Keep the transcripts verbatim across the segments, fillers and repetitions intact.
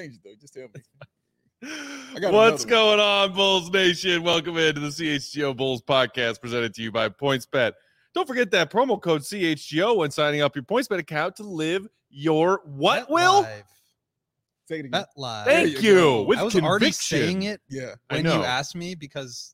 change it though. Just tell me. What's going on, Bulls Nation? Welcome into the C H G O Bulls podcast presented to you by PointsBet. Don't forget that promo code C H G O when signing up your PointsBet account to live your what, Bet Will? Live. Say it again. Bet Live. Thank you you. go. With I was conviction. already saying it Yeah. I when know. you asked me because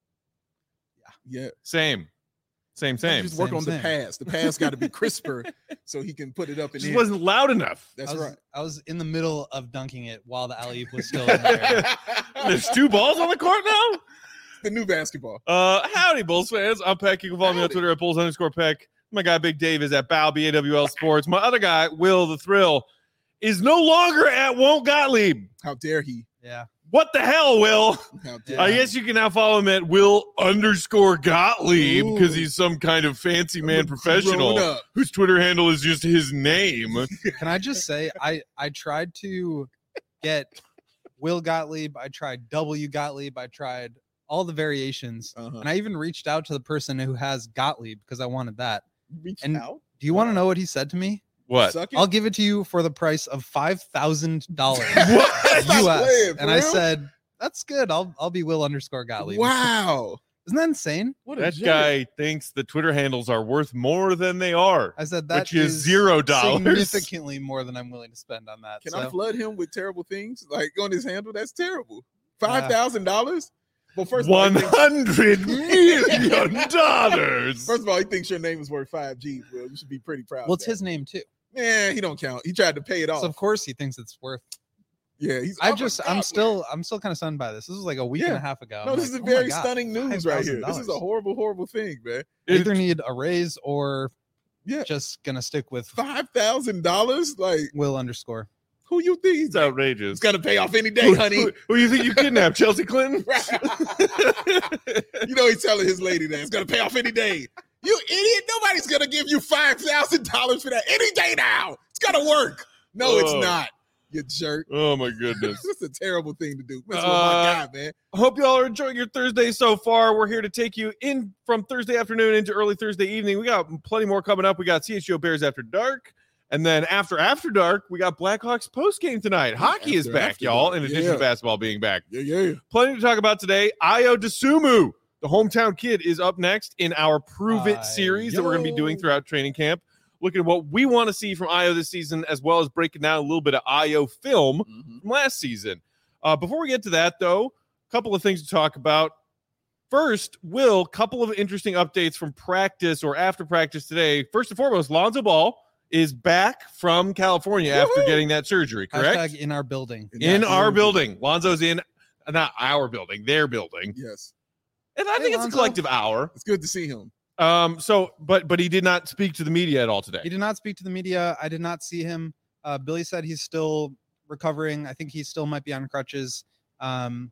Yeah. Same. Same, same. Just work Same, on the same. pass. The pass got to be crisper so he can put it up in Just there. wasn't loud enough. That's I was, right. I was in the middle of dunking it while the alley-oop was still in there. There's two balls on the court now? The new basketball. Uh, howdy, Bulls fans. I'm Peck. You can follow me on Howdy. Twitter at Bulls underscore Peck. My guy, Big Dave, is at Bow, B A W L Sports. My other guy, Will the Thrill, is no longer at Won't Gottlieb. How dare he? Yeah. What the hell, Will? How dare Yeah. I guess you can now follow him at Will underscore Gottlieb because Ooh. he's some kind of fancy I'm man a professional grown-up. whose Twitter handle is just his name. Can I just say I I tried to get Will Gottlieb, I tried W Gottlieb, I tried all the variations, Uh-huh. and I even reached out to the person who has Gottlieb because I wanted that. Reach And- out. Do you want to know what he said to me? What? Suck it. I'll give it to you for the price of five thousand dollars What? Stop U S. playing, for And I real? said, "That's good. I'll I'll be Will underscore Gottlieb." Wow. Isn't that insane? What a That jerk. guy thinks the Twitter handles are worth more than they are. I said that Which is zero dollars. significantly more than I'm willing to spend on that. Can so. I flood him with terrible things like on his handle? That's terrible. Five thousand dollars. Well, first of all, One he thinks, hundred million dollars. first of all, he thinks your name is worth five G's. Well, you should be pretty proud. Well, of it's that. his name too. Man, he don't count. He tried to pay it off. So of course he thinks it's worth. yeah, he's. I oh my just God, I'm man. still I'm still kind of stunned by this. This was like a week and Yeah. a half ago. No, I'm this like, is oh my very God, stunning news right here. This is a five thousand dollars. horrible, horrible thing, man. I either need a raise or Yeah, just gonna stick with five thousand dollars. Like, Will underscore. who you think he's It's outrageous. It's gonna pay off any day, honey. Who, who you think you kidnapped? Chelsea Clinton? You know he's telling his lady that it's gonna pay off any day. You idiot! Nobody's gonna give you five thousand dollars for that any day now. It's gonna work. No, Oh. it's not. You jerk. Oh my goodness. This is a terrible thing to do. Mess with Uh, my guy, man. Hope y'all are enjoying your Thursday so far. We're here to take you in from Thursday afternoon into early Thursday evening. We got plenty more coming up. We got C H G O Bears After Dark. And then after After Dark, we got Blackhawks post game tonight. Hockey is After back, After y'all, Dark. in addition Yeah. to basketball being back. Yeah, yeah. Plenty to talk about today. Ayo Dosunmu, the hometown kid, is up next in our Prove It series that we're going to be doing Ayo. throughout training camp. Looking at what we want to see from Ayo this season, as well as breaking down a little bit of Ayo film Mhm. from last season. Uh, before we get to that, though, a couple of things to talk about. First, Will, couple of interesting updates from practice or after practice today. First and foremost, Lonzo Ball is back from California after Woohoo! getting that surgery, correct? Hashtag in our building. In Yes. our building. Lonzo's in, not our building, their building. Yes, And I Hey, think it's Lonzo. a collective hour. it's good to see him. Um, so, but but he did not speak to the media at all today. He did not speak to the media. I did not see him. Uh, Billy said he's still recovering. I think he still might be on crutches. Um,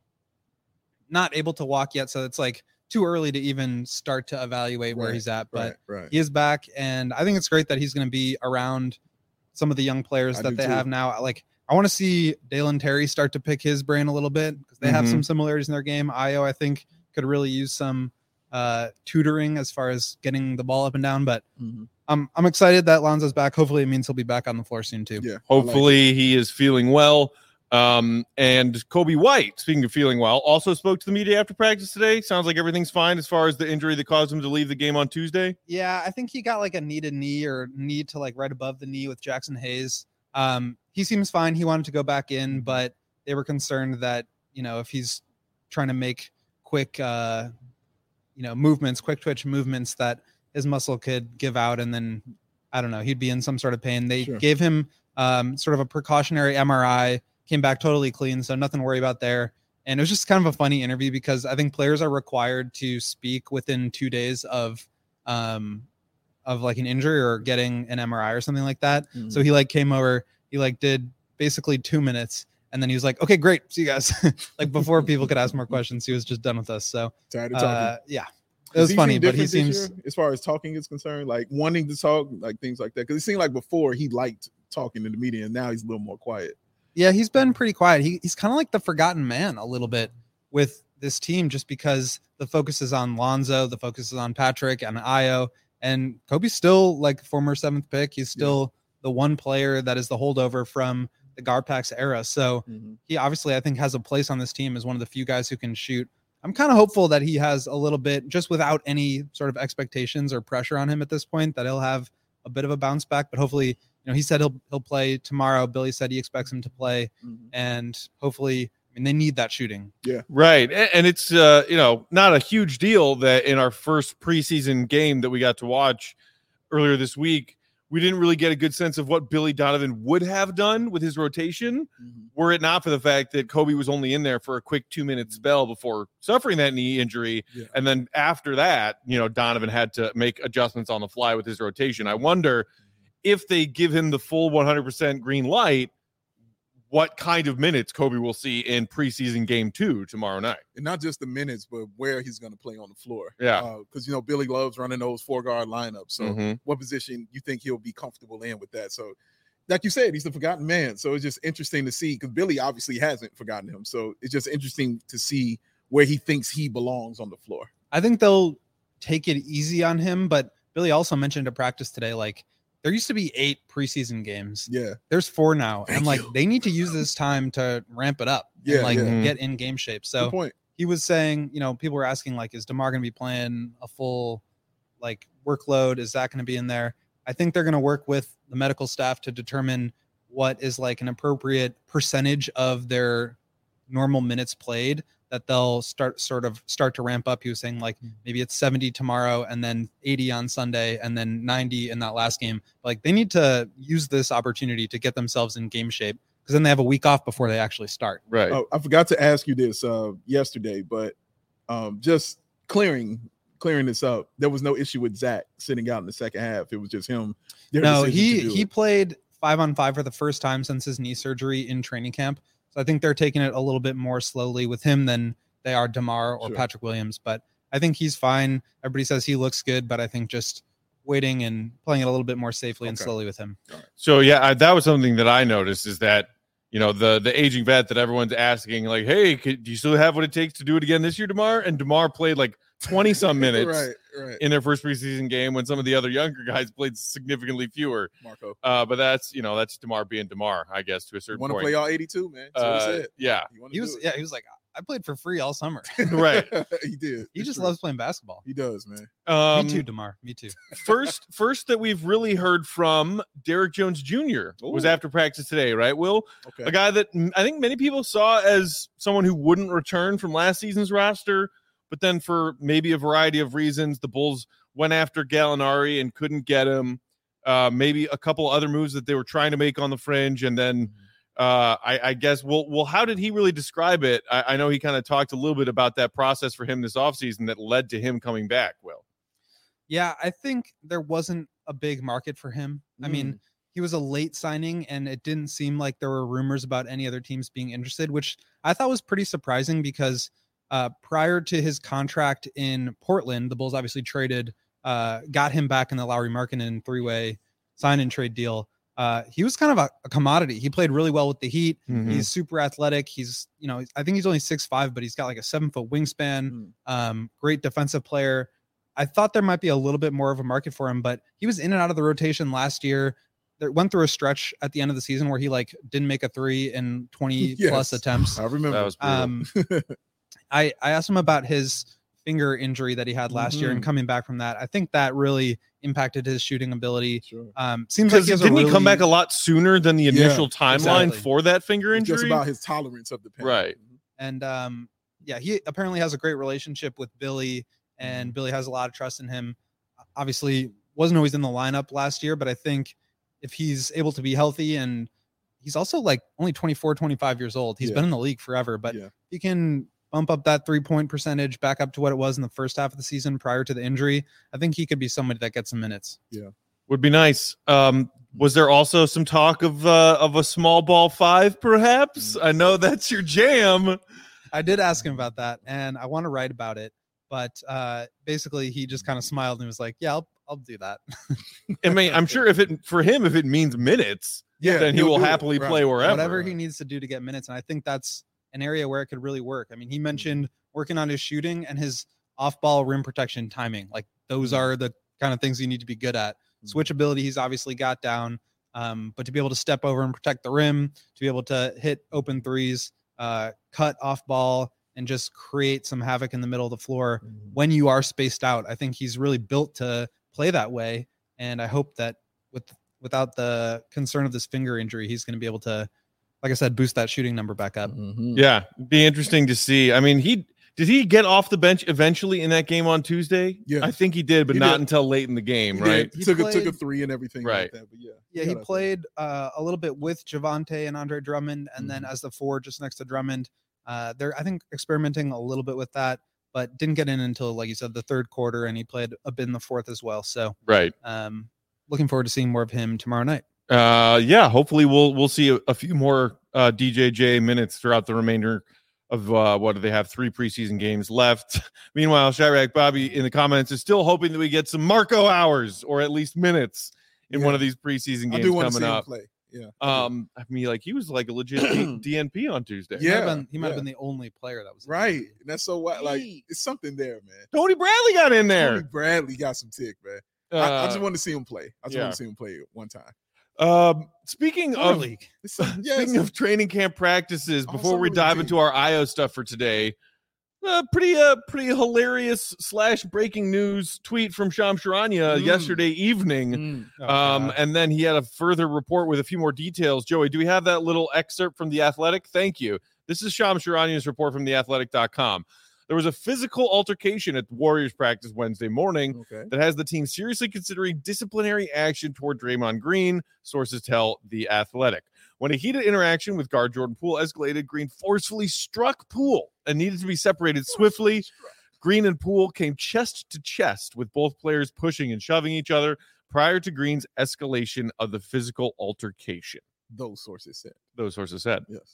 not able to walk yet, so it's like too early to even start to evaluate where Right, he's at. But Right, right. he is back, and I think it's great that he's going to be around some of the young players I that do they too. have now. Like I want to see Dalen Terry start to pick his brain a little bit because they have Mhm. some similarities in their game. Ayo, I think, could really use some uh, tutoring as far as getting the ball up and down. But Mhm. I'm I'm excited that Lonzo's back. Hopefully, it means he'll be back on the floor soon too. Yeah. I like it. Hopefully he is feeling well. Um, and Kobe White, speaking of feeling well, also spoke to the media after practice today. Sounds like everything's fine as far as the injury that caused him to leave the game on Tuesday. Yeah, I think he got like a kneaded knee or knee to like right above the knee with Jackson Hayes. Um, he seems fine. He wanted to go back in, but they were concerned that, you know, if he's trying to make quick, uh, you know, movements, quick twitch movements, that his muscle could give out and then, I don't know, he'd be in some sort of pain. They Sure. gave him um, sort of a precautionary M R I, came back totally clean. So nothing to worry about there. And it was just kind of a funny interview because I think players are required to speak within two days of, um, of like an injury or getting an M R I or something like that. Mhm. So he like came over, he like did basically two minutes and then he was like, okay, great. See you guys. Like before people could ask more questions, he was just done with us. So Tired of talking. uh, yeah, it Does was he funny, seem but he different this seems, year as far as talking is concerned, like wanting to talk, like things like that. Because it seemed like before he liked talking to the media, and now he's a little more quiet. yeah, he's been pretty quiet. He, he's kind of like the forgotten man a little bit with this team, just because the focus is on Lonzo, the focus is on Patrick and Ayo, and Kobe's still like former seventh pick. He's still the one player that is the holdover from the Garpax era. So Mm-hmm. he obviously, I think, has a place on this team as one of the few guys who can shoot. I'm kind of hopeful that he has a little bit, just without any sort of expectations or pressure on him at this point, that he'll have a bit of a bounce back. But hopefully, you know, he said he'll he'll play tomorrow. Billy said he expects him to play, Mm-hmm. and hopefully, I mean, they need that shooting. Right. And, and it's, uh, you know, not a huge deal that in our first preseason game that we got to watch earlier this week, we didn't really get a good sense of what Billy Donovan would have done with his rotation, Mm-hmm. were it not for the fact that Kobe was only in there for a quick two minute spell before suffering that knee injury. Yeah. And then after that, you know, Donovan had to make adjustments on the fly with his rotation. I wonder if they give him the full one hundred percent green light, what kind of minutes Kobe will see in preseason game two tomorrow night. And not just the minutes, but where he's going to play on the floor. Yeah. Because, uh, you know, Billy loves running those four-guard lineups. So Mhm. what position you think he'll be comfortable in with that? So, like you said, he's the forgotten man. So it's just interesting to see, because Billy obviously hasn't forgotten him. So it's just interesting to see where he thinks he belongs on the floor. I think they'll take it easy on him, but Billy also mentioned at practice today, like, there used to be eight preseason games. Yeah. There's four now. Thank and like you. they need to use this time to ramp it up Yeah, and like yeah. get in game shape. Good So point. he was saying, you know, people were asking, like, is DeMar going to be playing a full like workload? Is that going to be in there? I think they're going to work with the medical staff to determine what is like an appropriate percentage of their normal minutes played that they'll start sort of start to ramp up. He was saying like maybe it's seventy tomorrow and then eighty on Sunday and then ninety in that last game. Like they need to use this opportunity to get themselves in game shape, because then they have a week off before they actually start. Right. Oh, I forgot to ask you this uh, yesterday, but um, just clearing clearing this up, there was no issue with Zach sitting out in the second half. It was just him. their No, decision he to do he it. played five on five for the first time since his knee surgery in training camp. So I think they're taking it a little bit more slowly with him than they are DeMar or Sure. Patrick Williams. But I think he's fine. Everybody says he looks good, but I think just waiting and playing it a little bit more safely and Okay. slowly with him. So yeah, I, that was something that I noticed, is that, you know, the the aging vet that everyone's asking, like, hey, could, do you still have what it takes to do it again this year, DeMar? And DeMar played like twenty some minutes right, right. in their first preseason game, when some of the other younger guys played significantly fewer. Marco, Uh, but that's, you know, that's DeMar being DeMar, I guess, to a certain want to point. play all eighty-two, man. That's what he Uh, said. yeah, He, wanted He to was do yeah, he was like, I played for free all summer. it. right. he did. He It's just true. loves playing basketball. He does, man. Um, Me too, DeMar. Me too. first, first that we've really heard from Derrick Jones Junior was Ooh. after practice today, right, Will? Okay. A guy that mm, I think many people saw as someone who wouldn't return from last season's roster, but then for maybe a variety of reasons, the Bulls went after Gallinari and couldn't get him. Uh, maybe a couple other moves that they were trying to make on the fringe, and then uh, I, I guess, well, well, how did he really describe it? I, I know he kind of talked a little bit about that process for him this offseason that led to him coming back. Will. Yeah, I think there wasn't a big market for him. I mean, he was a late signing, and it didn't seem like there were rumors about any other teams being interested, which I thought was pretty surprising, because uh, prior to his contract in Portland, the Bulls obviously traded, uh, got him back in the Lowry Markkanen three-way sign and trade deal. Uh, he was kind of a, a commodity. He played really well with the Heat. Mhm. He's super athletic. He's, you know, I think he's only six five, but he's got like a seven foot wingspan. Mm. Um, great defensive player. I thought there might be a little bit more of a market for him, but he was in and out of the rotation last year. There went through a stretch at the end of the season where he like didn't make a three in twenty plus Yes. attempts. I remember. That was brutal. Um, I, I asked him about his finger injury that he had last year and Mhm. coming back from that. I think that really impacted his shooting ability. Sure. Um, seems like Because he has a didn't he come really- back a lot sooner than the Yeah, initial timeline exactly. for that finger It's injury? just about his tolerance of the pain. Right. And um, yeah, he apparently has a great relationship with Billy, Mm-hmm. and Billy has a lot of trust in him. Obviously, wasn't always in the lineup last year, but I think if he's able to be healthy, and he's also like only twenty-four, twenty-five years old, he's Yeah. been in the league forever, but Yeah. he can bump up that three point percentage back up to what it was in the first half of the season prior to the injury. I think he could be somebody that gets some minutes. Would be nice. Um, was there also some talk of uh, of a small ball five, perhaps? I know that's your jam. I did ask him about that, and I want to write about it, but uh, basically he just kind of smiled and was like, "Yeah, I'll I'll do that." I mean, I'm sure if it for him, if it means minutes, Yeah. then he he'll will do it. happily Right. play wherever. Whatever he needs to do to get minutes, and I think that's an area where it could really work. I mean, he mentioned working on his shooting and his off-ball rim protection timing. Like those Mhm. are the kind of things you need to be good at. Mhm. Switchability, he's obviously got down. Um, but to be able to step over and protect the rim, to be able to hit open threes, uh, cut off ball, and just create some havoc in the middle of the floor Mhm. when you are spaced out. I think he's really built to play that way. And I hope that with without the concern of this finger injury, he's going to be able to, like I said, boost that shooting number back up. Mhm. Yeah, be interesting to see. I mean, he did he get off the bench eventually in that game on Tuesday? Yeah. I think he did, but He not did. until late in the game, He right? did. He He took a took a played- three and everything Right. like that. But yeah, Yeah, he got up played uh, a little bit with Javante and Andre Drummond, and then Mhm. as the four just next to Drummond. Uh, they're, I think, experimenting a little bit with that, but didn't get in until, like you said, the third quarter, and he played a bit in the fourth as well. So Right. um, looking forward to seeing more of him tomorrow night. Uh, yeah, hopefully we'll we'll see a, a few more uh, D J J minutes throughout the remainder of uh, what do they have? Three preseason games left. Meanwhile, Chirac Bobby in the comments is still hoping that we get some Marco hours or at least minutes in Yeah. one of these preseason I games do want to coming see him up. play. Yeah. Um, I mean, like he was like a legit D N P on Tuesday. He might have Yeah, been, he might have yeah. been the only player that was in the Right. league. And that's so what like Hey. it's something there, man. Tony Bradley got in Tony there. Bradley got some tick, man. I, I Uh, just want to see him play. I just yeah. want to see him play one time. um, speaking Summer of league. It's, yes. Speaking of training camp practices, Oh, before we summer dive league. into our I O stuff for today, uh, pretty uh pretty hilarious slash breaking news tweet from Shams Charania Mm. yesterday evening. Mm. Oh, Um, God. and then he had a further report with a few more details. Joey, do we have that little excerpt from The Athletic? Thank you. This is Shams Charania's report from the athletic dot com. There was a physical altercation at the Warriors practice Wednesday morning Okay. that has the team seriously considering disciplinary action toward Draymond Green, sources tell The Athletic. When a heated interaction with guard Jordan Poole escalated, Green forcefully struck Poole and needed to be separated swiftly. Green and Poole came chest to chest with both players pushing and shoving each other prior to Green's escalation of the physical altercation. Those sources said. Those sources said. Yes.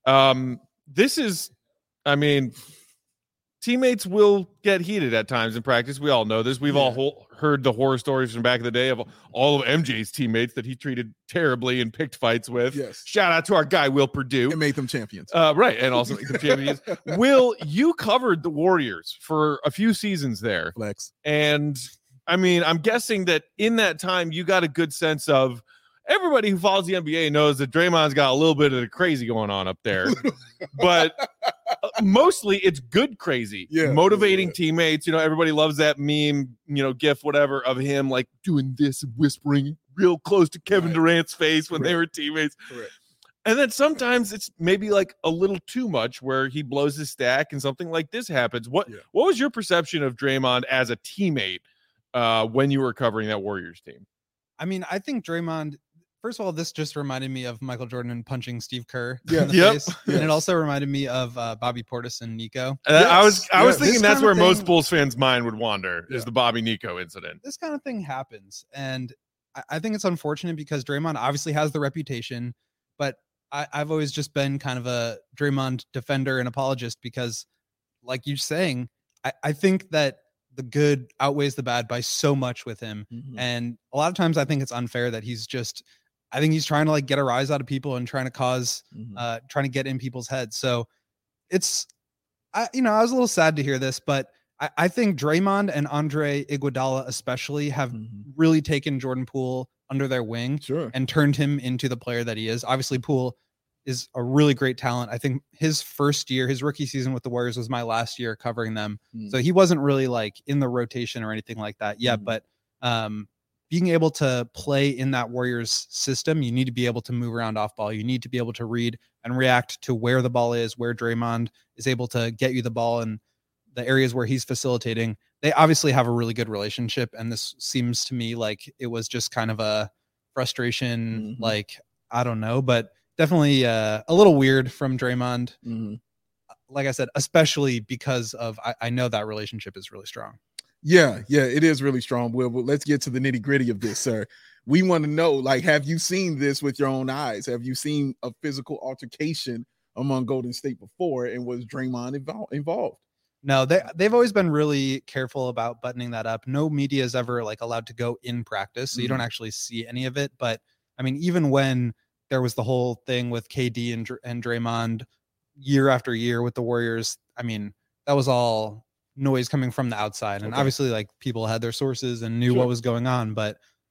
Um, this is, I mean, teammates will get heated at times in practice. We all know this. We've all Yeah. ho- heard the horror stories from back in the day of all of M J's teammates that he treated terribly and picked fights with. Yes. Shout out to our guy, Will Purdue. It made them champions. Uh, right. And also the champions. Will, you covered the Warriors for a few seasons there. Flex. And I mean, I'm guessing that in that time, you got a good sense of everybody who follows the N B A knows that Draymond's got a little bit of the crazy going on up there, but uh, mostly it's good crazy, Yeah, motivating yeah. teammates. You know, everybody loves that meme, you know, gif, whatever, of him like doing this and whispering real close to Kevin Right. Durant's face when they Correct. were teammates. Correct. And then sometimes it's maybe like a little too much where he blows his stack and something like this happens. What Yeah. what was your perception of Draymond as a teammate uh, when you were covering that Warriors team? I mean, I think Draymond, first of all, this just reminded me of Michael Jordan punching Steve Kerr Yeah. in the Yep. face. Yes. And it also reminded me of uh, Bobby Portis and Nico. Uh, I was Yes, I was yes. thinking This that's kind where of most thing- Bulls fans' mind would wander Yeah. is the Bobby Nico incident. This kind of thing happens. And I, I think it's unfortunate because Draymond obviously has the reputation, but I, I've always just been kind of a Draymond defender and apologist because, like you're saying, I, I think that the good outweighs the bad by so much with him. Mhm. And a lot of times I think it's unfair that he's just, I think he's trying to like get a rise out of people and trying to cause, Mhm. uh, trying to get in people's heads. So it's, I, you know, I was a little sad to hear this, but I, I think Draymond and Andre Iguodala especially have Mhm. really taken Jordan Poole under their wing Sure. and turned him into the player that he is. Obviously, Poole is a really great talent. I think his first year, his rookie season with the Warriors was my last year covering them. Mm. So he wasn't really like in the rotation or anything like that yet. Mhm. But um, being able to play in that Warriors system, you need to be able to move around off ball. You need to be able to read and react to where the ball is, where Draymond is able to get you the ball and the areas where he's facilitating. They obviously have a really good relationship. And this seems to me like it was just kind of a frustration, Mhm. like, I don't know, but definitely uh, a little weird from Draymond. Mhm. Like I said, especially because of, I, I know that relationship is really strong. Yeah, yeah, it is really strong, Will. But let's get to the nitty gritty of this, sir. We want to know, like, have you seen this with your own eyes? Have you seen a physical altercation among Golden State before? And was Draymond invol- involved? No, they they've always been really careful about buttoning that up. No media is ever like allowed to go in practice, so you don't actually see any of it. But I mean, even when there was the whole thing with K D and Dr- and Draymond year after year with the Warriors, I mean, that was all noise coming from the outside, and Okay. obviously, like people had their sources and knew Sure. what was going on. But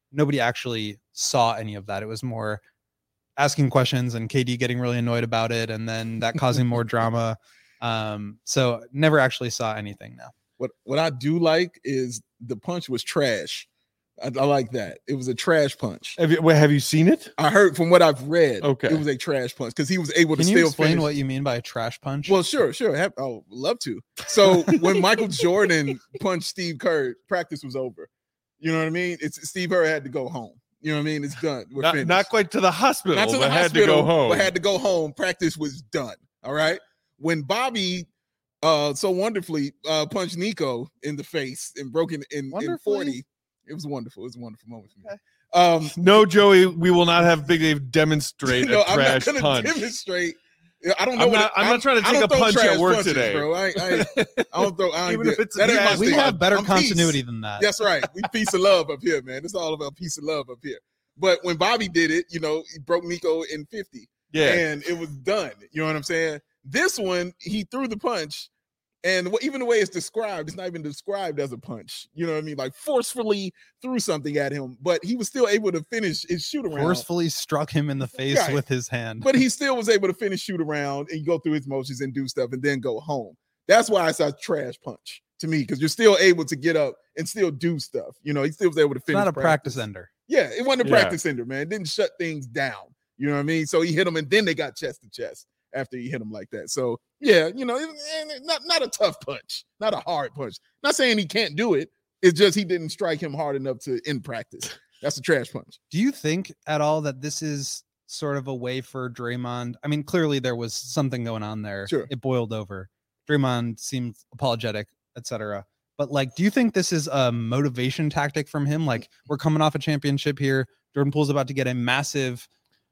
nobody actually saw any of that. It was more asking questions and K D getting really annoyed about it, and then that causing more drama. Um, so never actually saw anything now. What what I do like is the punch was trash. I, I like that. It was a trash punch. Have you wait, have you seen it? I heard from what I've read. Okay. It was a trash punch because he was able to Can you still explain finish. what you mean by a trash punch? Well, sure, sure. Have, oh, love to. So when Michael Jordan punched Steve Kerr, practice was over. You know what I mean? It's Steve Kerr had to go home. You know what I mean? It's done. We're Not, finished. not quite to the hospital, Not to the but hospital, had to go home. but had to go home. Practice was done. All right. When Bobby uh so wonderfully uh punched Nico in the face and broke in in, in forty, it was wonderful. It was a wonderful moment for me. Okay. Um, no, Joey, we will not have Big Dave demonstrate no, a I'm not trash gonna punch. demonstrate. I don't know. I'm what not, it, I'm not trying to I take a don't throw punch trash at work punches, today, bro. I, I, I don't throw. I Even ain't if it's a that ain't my trash we thing. have better I'm continuity peace. than that. That's right. We peace and love up here, man. It's all about peace and love up here. But when Bobby did it, you know, he broke Nico in fifty. Yeah. And it was done. You know what I'm saying? This one, he threw the punch. And what, even the way it's described, it's not even described as a punch. You know what I mean? Like forcefully threw something at him, but he was still able to finish his shoot around. Forcefully struck him in the face Right. with his hand. But he still was able to finish shoot around and go through his motions and do stuff and then go home. That's why it's a trash punch to me, because you're still able to get up and still do stuff. You know, he still was able to It's finish. not a practice ender. Yeah, it wasn't a Yeah. practice ender, man. It didn't shut things down. You know what I mean? So he hit him and then they got chest to chest after he hit him like that. So yeah, you know, it- not, not a tough punch, not a hard punch. Not saying he can't do it. It's just he didn't strike him hard enough to in practice. That's a trash punch. Do you think at all that this is sort of a way for Draymond? I mean, clearly there was something going on there. Sure. It boiled over. Draymond seemed apologetic, et cetera. But like, do you think this is a motivation tactic from him? Like, we're coming off a championship here. Jordan Poole's about to get a massive,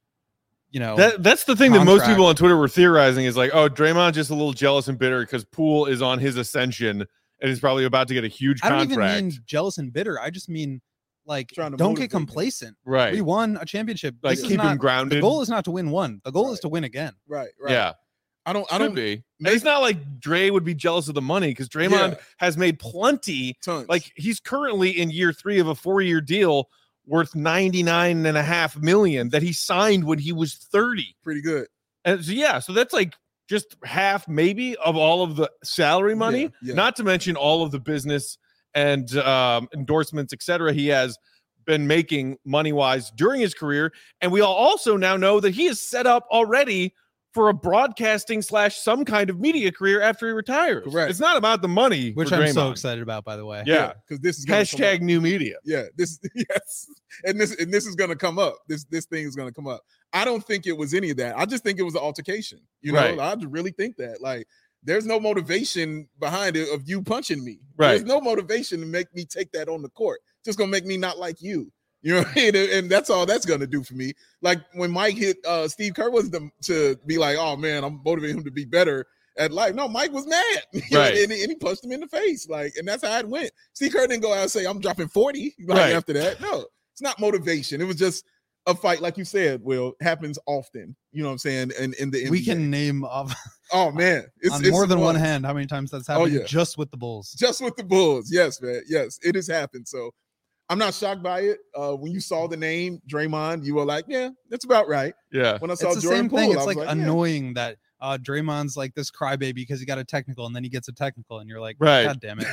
you know, That, that's the thing that most contract. people on Twitter were theorizing is like, oh, Draymond's just a little jealous and bitter because Poole is on his ascension and is probably about to get a huge I don't contract. even mean jealous and bitter. I just mean like, Trying to don't motivate get him. complacent. right. We won a championship. Like, This is keep him not- grounded. The goal is not to win one. The goal Right. is to win again. Right, right. Yeah. I don't I Could don't be. And make- it's not like Dre would be jealous of the money because Draymond Yeah. has made plenty. tons. Like, he's currently in year three of a four-year deal worth ninety-nine and a half million that he signed when he was thirty. pretty good. And so, yeah, so that's like just half maybe of all of the salary money, Yeah, yeah. not to mention all of the business and um, endorsements, et cetera, he has been making money-wise during his career. And we all also now know that he is set up already for a broadcasting slash some kind of media career after he retires. Correct. It's not about the money, Which for I'm so Draymond. excited about, by the way. Yeah. because this is gonna come Hashtag up. new media. Yeah, this yes, and this and this is gonna come up. This this thing is gonna come up. I don't think it was any of that. I just think it was an altercation. You know, Right. I just really think that. Like, there's no motivation behind it of you punching me. Right. There's no motivation to make me take that on the court. Just gonna make me not like you. You know what I mean? And, and that's all that's gonna do for me. Like when Mike hit uh Steve Kerr was the, to be like, oh man, I'm motivating him to be better at life. No, Mike was mad. You know, Right. and, he- and he punched him in the face. Like, and that's how it went. Steve Kerr didn't go out and say, I'm dropping forty like Right. after that. No, it's not motivation. It was just a fight, like you said, Will, happens often. You know what I'm saying? And in, in the N B A. We can name off oh man, it's, on it's more than one fun. hand how many times that's Oh, happened yeah. just with the Bulls. Just with the Bulls. Yes, man. Yes, it has happened. So I'm not shocked by it. Uh, when you saw the name Draymond, you were like, yeah, that's about right. Yeah. When I saw It's the Jordan same Poole, thing. I It's was like, yeah. annoying that uh Draymond's like this crybaby because he got a technical and then he gets a technical and you're like, Right. God damn it.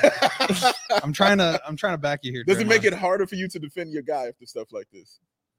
I'm trying to I'm trying to back you here. Does it make Draymond. it harder for you to defend your guy after stuff like this?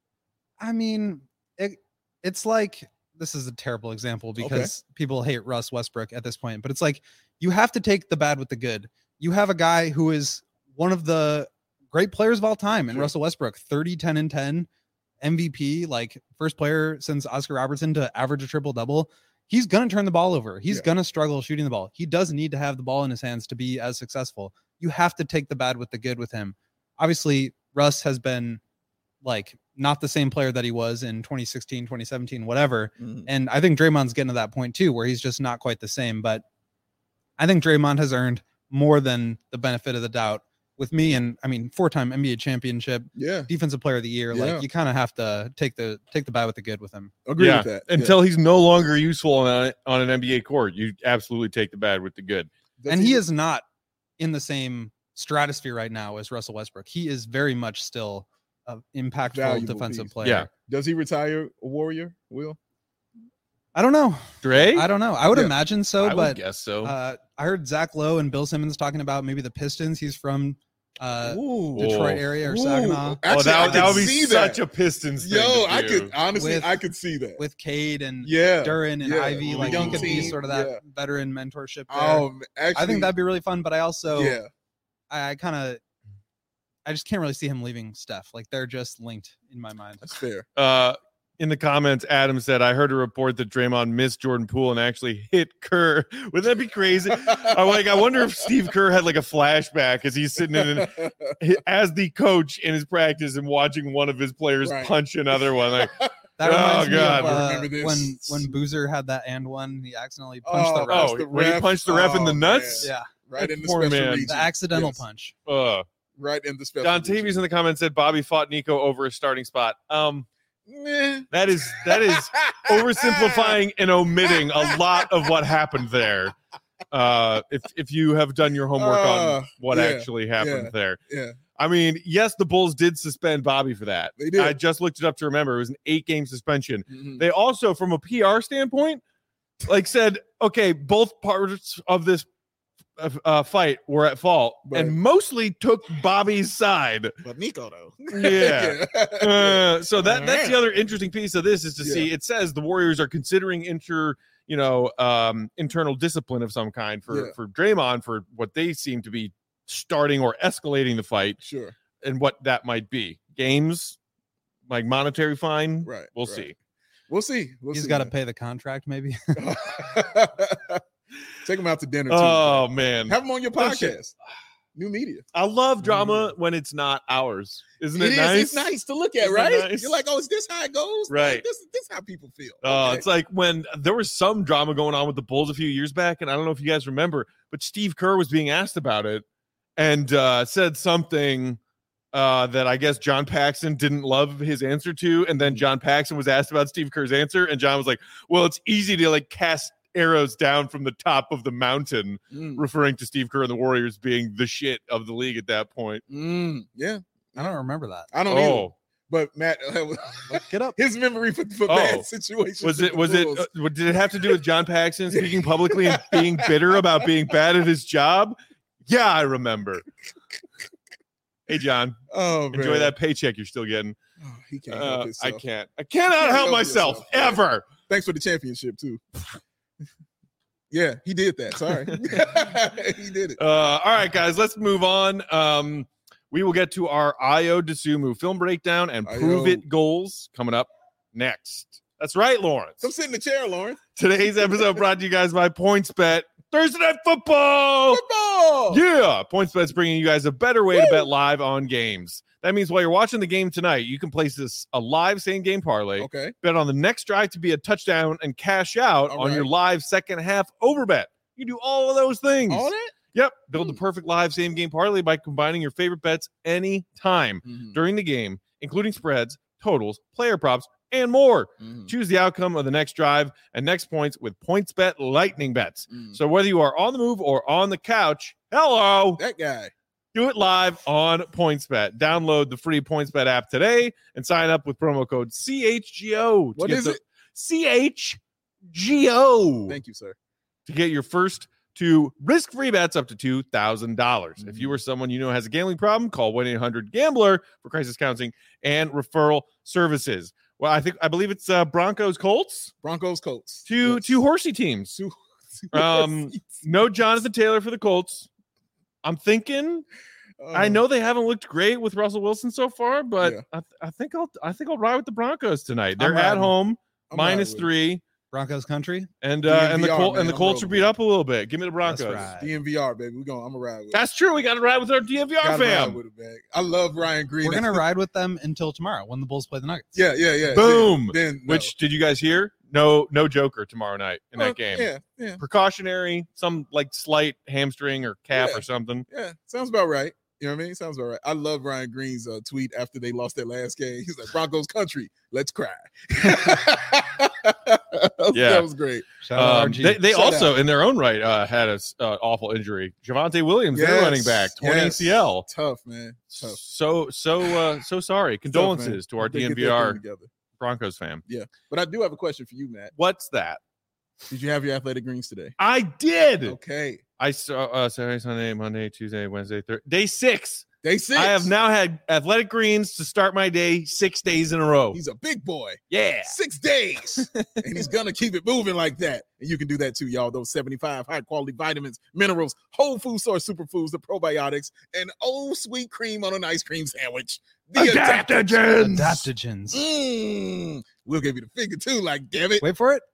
I mean, it, it's like this is a terrible example because people hate Russ Westbrook at this point, but it's like you have to take the bad with the good. You have a guy who is one of the great players of all time in Sure. Russell Westbrook, thirty, ten, and ten, M V P, like first player since Oscar Robertson to average a triple double. He's going to turn the ball over. He's Yeah. going to struggle shooting the ball. He does need to have the ball in his hands to be as successful. You have to take the bad with the good with him. Obviously, Russ has been like not the same player that he was in twenty sixteen, twenty seventeen, whatever. Mhm. And I think Draymond's getting to that point too, where he's just not quite the same. But I think Draymond has earned more than the benefit of the doubt with me. And I mean, four-time N B A championship, Yeah, defensive player of the year. Yeah. Like you kind of have to take the take the bad with the good with him. agree yeah. with that. Yeah. Until he's no longer useful on, a, on an N B A court, you absolutely take the bad with the good. Does and he is not in the same stratosphere right now as Russell Westbrook. He is very much still a impactful Valuable defensive piece. player. Yeah. Does he retire a Warrior? Will? I don't know. Dre? I don't know. I would Yeah. imagine so, I would but guess so. uh, I heard Zach Lowe and Bill Simmons talking about maybe the Pistons. He's from uh, Ooh. Detroit Ooh. area or Ooh. Saginaw Actually, oh, that, I would- that could would be see such that. a Pistons thing. Yo, to I do. could honestly, With- I could see that. with Cade and yeah. Duran and yeah. Ivy. The Like young he could be team, sort of that yeah. veteran mentorship there. Oh, actually, I think that'd be really fun, but I also yeah. I, I kind of I just can't really see him leaving Steph. Like they're just linked in my mind. That's fair. Uh, in the comments, Adam said, I heard a report that Draymond missed Jordan Poole and actually hit Kerr. Wouldn't that be crazy? I'm like, I wonder if Steve Kerr had like a flashback as he's sitting in as the coach in his practice and watching one of his players Right. punch another one. Like, That Oh, reminds me God. of uh, I remember this. when when Boozer had that and one, he accidentally punched Oh, the ref. oh, the when he ref. punched the ref in the Oh, nuts. Yeah, right in the Poor special man. region. the accidental Yes. punch. Uh, Right in the special. Don region. Tavius in the comments said Bobby fought Nico over a starting spot. Um, Meh. that is that is oversimplifying and omitting a lot of what happened there. Uh, if if you have done your homework Uh, on what yeah, actually happened yeah. there, Yeah, I mean, yes, the Bulls did suspend Bobby for that. they did. I just looked it up to remember; it was an eight-game suspension. Mhm. They also, from a P R standpoint, like said, okay, both parts of this uh, uh, fight were at fault, But- and mostly took Bobby's side. But Nico though. Yeah. Yeah. Uh, so that that's the other interesting piece of this is to Yeah. see. It says the Warriors are considering inter, you know, um, internal discipline of some kind for Yeah. for Draymond for what they seem to be starting or escalating the fight, Sure. and what that might be. Games, like monetary fine. Right. We'll right. see. We'll see. We'll He's see, got to man. pay the contract, maybe. Take him out to dinner too. Oh man, Have him on your Bullshit. podcast. New media. I love drama when it's not ours. Isn't it, It is. nice? It's nice to look at, Isn't it right? nice? You're like, oh, is this how it goes? Right. Like, this, this is how people feel. Oh, Okay. it's like when there was some drama going on with the Bulls a few years back, and I don't know if you guys remember, but Steve Kerr was being asked about it and uh, said something uh, that I guess John Paxson didn't love his answer to, and then John Paxson was asked about Steve Kerr's answer, and John was like, "Well, it's easy to like cast arrows down from the top of the mountain," Mm, referring to Steve Kerr and the Warriors being the shit of the league at that point. mm, yeah. I don't remember that. I don't either. Oh, But Matt, Get up. his memory for, for Oh. bad situations. was with it the was it Bulls. uh, what- did it have to do with John Paxson speaking publicly and being bitter about being bad at his job? Yeah, I remember. Hey John, Oh, man. enjoy that paycheck you're still getting. Oh, he can't Uh, help I himself. can't. I cannot Can't help help myself yourself, man. ever. Thanks for the championship too. Yeah, he did that. Sorry, he did it. Uh, all right, guys, let's move on. Um, we will get to our Io DeSumo film breakdown and prove Io. it goals coming up next. That's right, Lawrence. Come sit in the chair, Lauren. Today's episode brought to you guys by PointsBet. Thursday Night Football. Football. Yeah, PointsBet's bringing you guys a better way to bet live on games. That means while you're watching the game tonight, you can place this a live same game parlay, Okay. bet on the next drive to be a touchdown, and cash out All on right. your live second half over bet. You do all of those things. All that. Yep. Build the Hmm. perfect live same game parlay by combining your favorite bets anytime Mhm, during the game, including spreads, totals, player props, and more. mhm, Choose the outcome of the next drive and next points with PointsBet Lightning Bets. mhm. So whether you are on the move or on the couch, hello, That guy. do it live on PointsBet. Download the free PointsBet app today and sign up with promo code C H G O. to What get is the- it? C H G O. Thank you, sir. To get your first two risk-free bets up to two thousand dollars. If you Mm-hmm. or someone you know has a gambling problem, call one eight hundred gambler for crisis counseling and referral services. Well, I think I believe it's uh, Broncos Colts. Broncos, Colts. Two Yes. two horsey teams. Two- Um, No Jonathan Taylor for the Colts. I'm thinking I Uh, know they haven't looked great with Russell Wilson so far, but Yeah. I, th- I think I'll I think I'll ride with the Broncos tonight. They're I'm at riding. home, I'm minus riding with three, Broncos country. and uh, and the D N V R, Col- man, and the I'm Colts are rolling beat up a little bit. Give me the Broncos. That's it. right. D N V R, baby. We're going. I'm gonna ride with it. That's true. We got to ride with our D M V R Gotta ride fam. with it, man. I love Ryan Green. We're gonna That's- ride with them until tomorrow when the Bulls play the Nuggets. Yeah, yeah, yeah. Boom. Then, then no. Which did you guys hear? No, no Joker tomorrow night in Well, that game. Yeah, yeah, Precautionary, some like slight hamstring or calf Yeah. or something. yeah. Sounds about right. You know what I mean? Sounds about right. I love Ryan Green's uh, tweet after they lost their last game. He's like, Broncos country, let's cry. Yeah. That was great. Shout out Um, R G. they they Shout also, out. in their own right, uh, had a uh, awful injury. Javonte Williams, their Yes, running back, torn yes. A C L. Tough, man. Tough. So so uh, so sorry. Condolences to our Hope they get their D N V R thing together. Broncos fan. Yeah. But I do have a question for you, Matt. What's that? Did you have your athletic greens today? I did. Okay. I saw uh, Saturday, Sunday, Monday, Tuesday, Wednesday, Thursday, day six. Day six. I have now had athletic greens to start my day six days in a row. He's a big boy. Yeah. Six days. And he's going to keep it moving like that. And you can do that too, y'all. Those seventy-five high quality vitamins, minerals, whole food source superfoods, the probiotics, and oh, sweet cream on an ice cream sandwich. The Adaptogens. Adaptogens. Mm. We'll give you the figure too, like, damn it. Wait for it.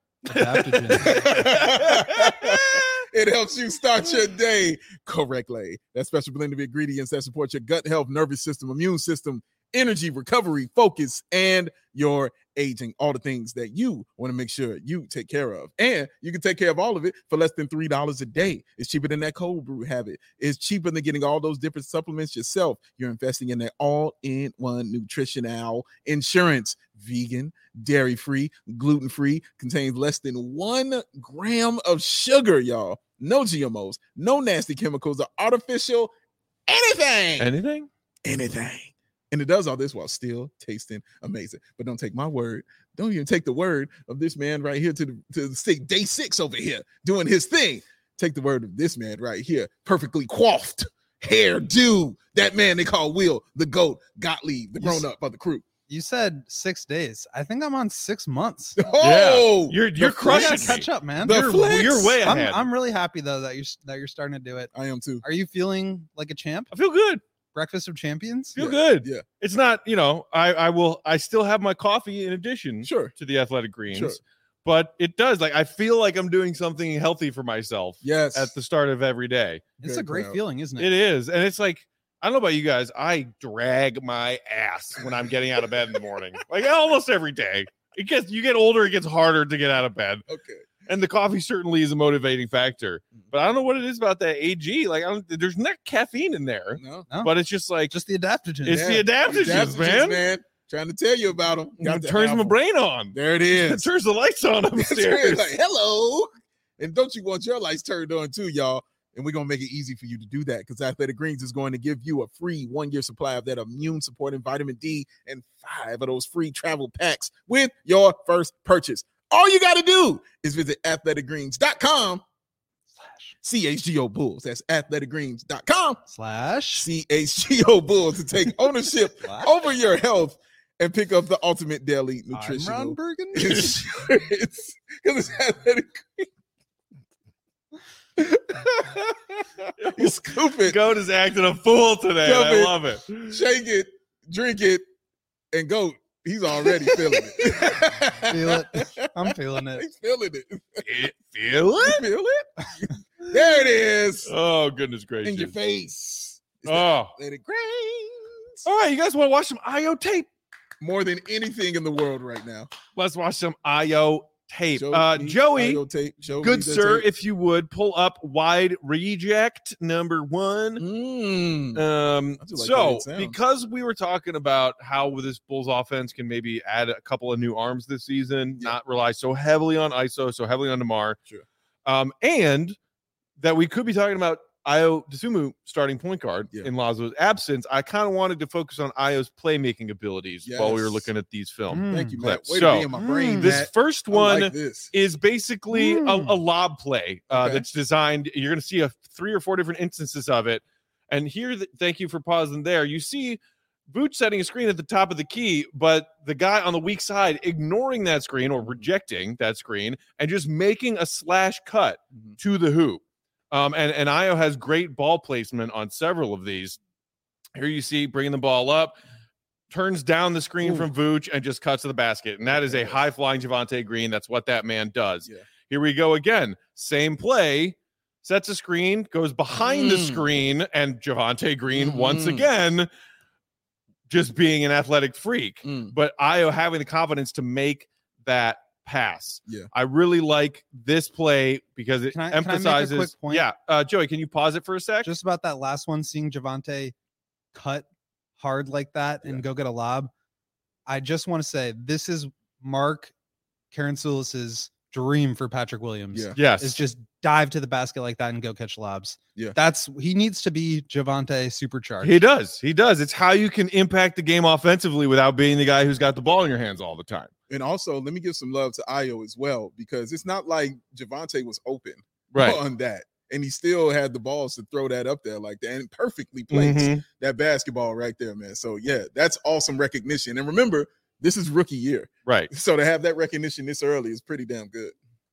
Adaptogens. It helps you start your day correctly. That special blend of ingredients that support your gut health, nervous system, immune system, energy, recovery, focus, and your aging. All the things that you want to make sure you take care of. And you can take care of all of it for less than three dollars a day. It's cheaper than that cold brew habit. It's cheaper than getting all those different supplements yourself. You're investing in that all-in-one nutritional insurance. Vegan, dairy-free, gluten-free, contains less than one gram of sugar, y'all. No G M Os, no nasty chemicals or artificial anything. Anything? Anything. And it does all this while still tasting amazing. But don't take my word. Don't even take the word of this man right here to the to the state day six over here doing his thing. Take the word of this man right here, perfectly coiffed, hair do. That man they call Will, the GOAT, Gottlieb, the grown up of the crew. You said six days. I think I'm on six months. Oh, You're you're the I crushing gotta flex. me. catch up, man. The You're, flex. you're way I'm, ahead. I'm really happy though that you're that you're starting to do it. I am too. Are you feeling like a champ? I feel good. Breakfast of champions. Feel Yeah, good. yeah. It's not, you know, I I will I still have my coffee in addition Sure. to the athletic greens. Sure. But it does, like, I feel like I'm doing something healthy for myself Yes. at the start of every day. It's Very a great proud. feeling, isn't it? It is. And it's like, I don't know about you guys. I drag my ass when I'm getting out of bed in the morning, like almost every day. It gets, you get older, it gets harder to get out of bed. Okay. And the coffee certainly is a motivating factor. But I don't know what it is about that A G. Like, I don't, there's not caffeine in there, No. No, but it's just like, just the adaptogens. It's the adaptogens, man. Trying to tell you about them. it turns my brain on. There it It is. turns the lights on That's right. upstairs. Like, hello. And don't you want your lights turned on too, y'all? And we're going to make it easy for you to do that because Athletic Greens is going to give you a free one-year supply of that immune supporting vitamin D and five of those free travel packs with your first purchase. All you got to do is visit athletic greens dot com slash C H G O Bulls. That's athletic greens dot com slash C H G O Bulls to take ownership slash over your health and pick up the ultimate daily I'm Ron nutritional Burgundy. insurance. Because it's athletic greens. You scoop it, Goat is acting a fool today. Love and I it. love it. shake it, drink it, and go. He's already feeling it. Feel it. I'm feeling it. He's feeling it. Fe- Feel You it? feel it? There it is. Oh, goodness In gracious. your face. It's Oh. athletic greens. All right, you guys want to watch some I O tape? More than anything in the world right now. Let's watch some I O tape. Show Uh, me Joey, I O tape. Show good me the sir, tape. if you would pull up wide reject number one. Mm. Um, I do like the way so it sounds. because we were talking about how this Bulls offense can maybe add a couple of new arms this season, Yeah. not rely so heavily on I S O, so heavily on DeMar, Sure. um, and that we could be talking about Io DeSumo starting point guard Yeah. in Lazo's absence, I kind of wanted to focus on Io's playmaking abilities while we were Yes. looking at these films. Mm. Thank you, Matt. clips. Way So, to be in my brain, mm, This Matt. first I one like this. is basically a, Mm. a lob play uh, Okay. that's designed. You're going to see a three or four different instances of it. And here, th- thank you for pausing there. You see Vooch setting a screen at the top of the key, but the guy on the weak side ignoring that screen or rejecting that screen and just making a slash cut Mhm. to the hoop. Um, and, and Io has great ball placement on several of these. Here you see bringing the ball up, turns down the screen Ooh. from Vooch and just cuts to the basket. And that is a Yes. high flying Javonte Green. That's what that man does. Yeah. Here we go again. Same play, sets a screen, goes behind the Mm. screen, and Javonte Green once Mhm. again just being an athletic freak. Mm. But Io having the confidence to make that pass. Yeah. I really like this play because it Can I- can I make a emphasizes. quick point? Yeah, uh, Joey, can you pause it for a sec? Just about that last one, seeing Javante cut hard like that and Yeah. go get a lob. I just want to say this is Mark Karantzoulis's dream for Patrick Williams. Yeah. Yes. Is just dive to the basket like that and go catch lobs. Yeah. That's he needs to be Javonte supercharged. He does. He does. It's how you can impact the game offensively without being the guy who's got the ball in your hands all the time. And also, let me give some love to Ayo as well, because it's not like Javonte was open Right. on that. And he still had the balls to throw that up there like that and perfectly placed Mhm. that basketball right there, man. So, yeah, that's awesome recognition. And remember, this is rookie year. Right. So to have that recognition this early is pretty damn good.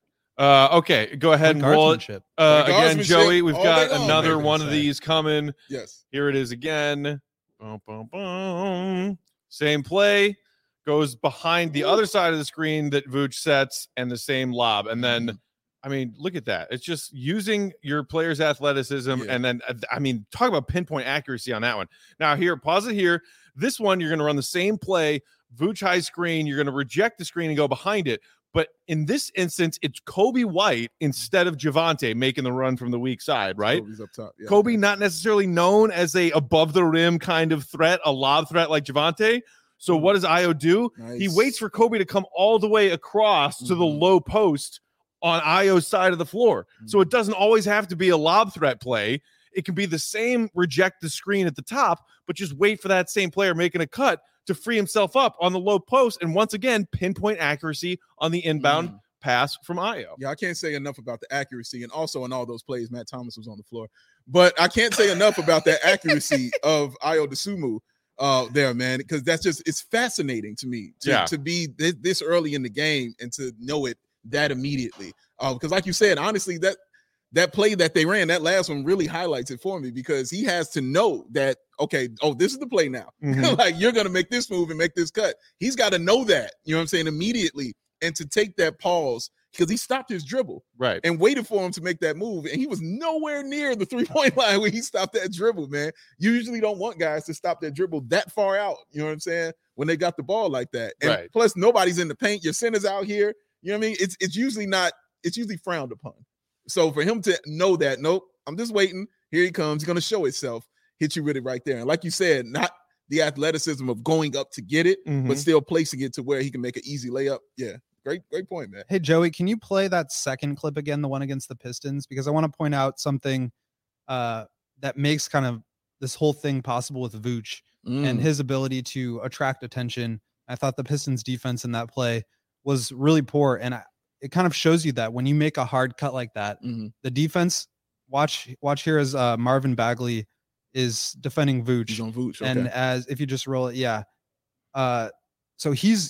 Uh, okay, go ahead and roll it. Guardsmanship. Uh, again, Guardsmanship Joey, we've all got day long, another I'm one gonna of say. these coming. Yes. Here it is again. Boom, boom, boom. Same play. Goes behind the other side of the screen that Vooch sets and the same lob. And then, Mhm. I mean, look at that. It's just using your player's athleticism. Yeah. And then, uh, I mean, talk about pinpoint accuracy on that one. Now, here, pause it here. This one, you're going to run the same play, Vooch high screen. You're going to reject the screen and go behind it. But in this instance, it's Kobe White instead of Javonte making the run from the weak side, right? Kobe's up top. Yeah. Kobe not necessarily known as a above the rim kind of threat, a lob threat like Javonte. So what does Ayo do? He Nice. waits for Kobe to come all the way across to the Mhm. low post on Ayo's side of the floor. So it doesn't always have to be a lob threat play. It can be the same reject the screen at the top, but just wait for that same player making a cut to free himself up on the low post. And once again, pinpoint accuracy on the inbound Mm. pass from Ayo. Yeah, I can't say enough about the accuracy, and also in all those plays, Matt Thomas was on the floor. But I can't say enough about that accuracy of Ayo Dosunmu uh, there, man, because that's just it's fascinating to me to, Yeah. to be this, this early in the game and to know it that immediately. Uh, because, like you said, honestly, that that play that they ran, that last one really highlights it for me because he has to know that okay, oh, this is the play now. Mhm. Like you're gonna make this move and make this cut. He's got to know that, you know what I'm saying, immediately, and to take that pause because he stopped his dribble Right. and waited for him to make that move. And he was nowhere near the three-point line when he stopped that dribble, man. You usually don't want guys to stop that dribble that far out, you know what I'm saying, when they got the ball like that. And Right. plus, nobody's in the paint. Your center's out here. You know what I mean? It's it's usually not, it's usually frowned upon. So for him to know that, nope, I'm just waiting. Here he comes. He's going to show itself, hit you with it right there. And like you said, not the athleticism of going up to get it, Mhm. but still placing it to where he can make an easy layup. Yeah, great, great point, man. Hey, Joey, can you play that second clip again, the one against the Pistons? Because I want to point out something uh, that makes kind of this whole thing possible with Vooch and Mm. his ability to attract attention. I thought the Pistons defense in that play was really poor. And I, it kind of shows you that when you make a hard cut like that, Mhm. the defense, watch, watch here as uh, Marvin Bagley is defending Vooch. He's on Vooch. Okay. And as if you just roll it, yeah. Uh, so he's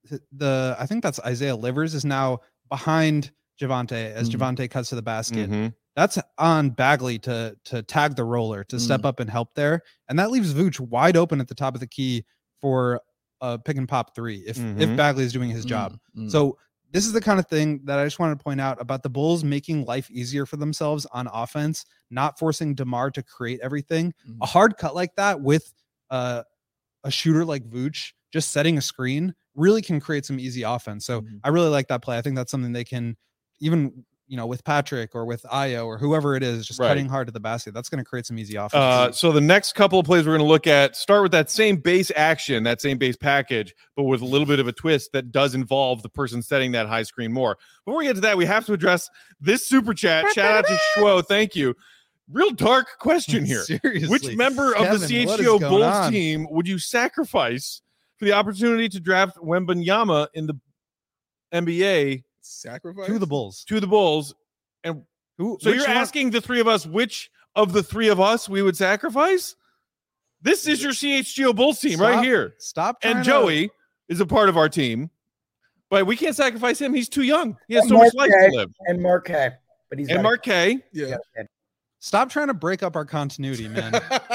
the I think that's Isaiah Livers is now behind Javonte as Mhm. Javonte cuts to the basket. Mhm. That's on Bagley to to tag the roller to step up and help there, and that leaves Vooch wide open at the top of the key for a pick and pop three if Mhm. if Bagley is doing his job. Mm. So this is the kind of thing that I just wanted to point out about the Bulls making life easier for themselves on offense, not forcing DeMar to create everything. Mhm. A hard cut like that with uh, a shooter like Vooch just setting a screen really can create some easy offense. So Mhm. I really like that play. I think that's something they can even, you know, with Patrick or with Ayo or whoever it is, just Right. cutting hard to the basket. That's going to create some easy offense. Uh, so the next couple of plays we're going to look at start with that same base action, that same base package, but with a little bit of a twist that does involve the person setting that high screen more. Before we get to that, we have to address this super chat. Shout out to Schwo. Thank you. Real dark question here. Seriously. Which member of Kevin, the C H what G is O going Bulls on? team would you sacrifice for the opportunity to draft Wembanyama in the N B A Sacrifice to the Bulls. to the Bulls? And Who, so which you're one- asking the three of us which of the three of us we would sacrifice? This is your C H G O Bulls team right Stop- here. Stop. trying And to- Joey is a part of our team, but we can't sacrifice him. He's too young. He has And so much Mark life Kay. to live. and Marquet, but he's And got- Mark K. Yeah. Stop trying to break up our continuity, man.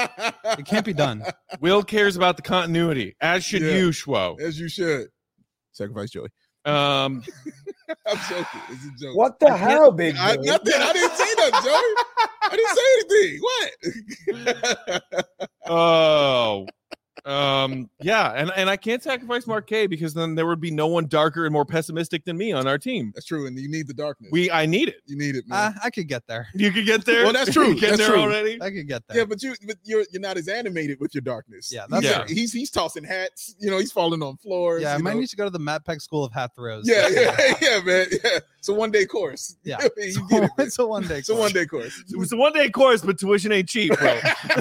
It can't be done. Will cares about the continuity, as should Yeah. you, Schwo. As you should. Sacrifice Joey. Um, I'm joking. It's a joke. What the hell, big I, Joey? nothing. I didn't say that, Joey. I didn't say anything. What? oh, Um, yeah, and, and I can't sacrifice Mark K because then there would be no one darker and more pessimistic than me on our team. That's true, and you need the darkness. We, I need it. you need it, man. Uh, I could get there. You could get there. Well, that's true. You get That's there true. already. I could get there. yeah, but you, but you're you're not as animated with your darkness. Yeah, he's, that's Yeah. he's he's tossing hats. You know, he's falling on floors. Yeah, I you might know. need to go to the Matt Peck School of Hat Throws. Yeah, yeah, yeah, man. Yeah, it's a one day course. Yeah. you So get it. Man. it's a one day. It's a one day course. It was a one day course, but tuition ain't cheap, bro.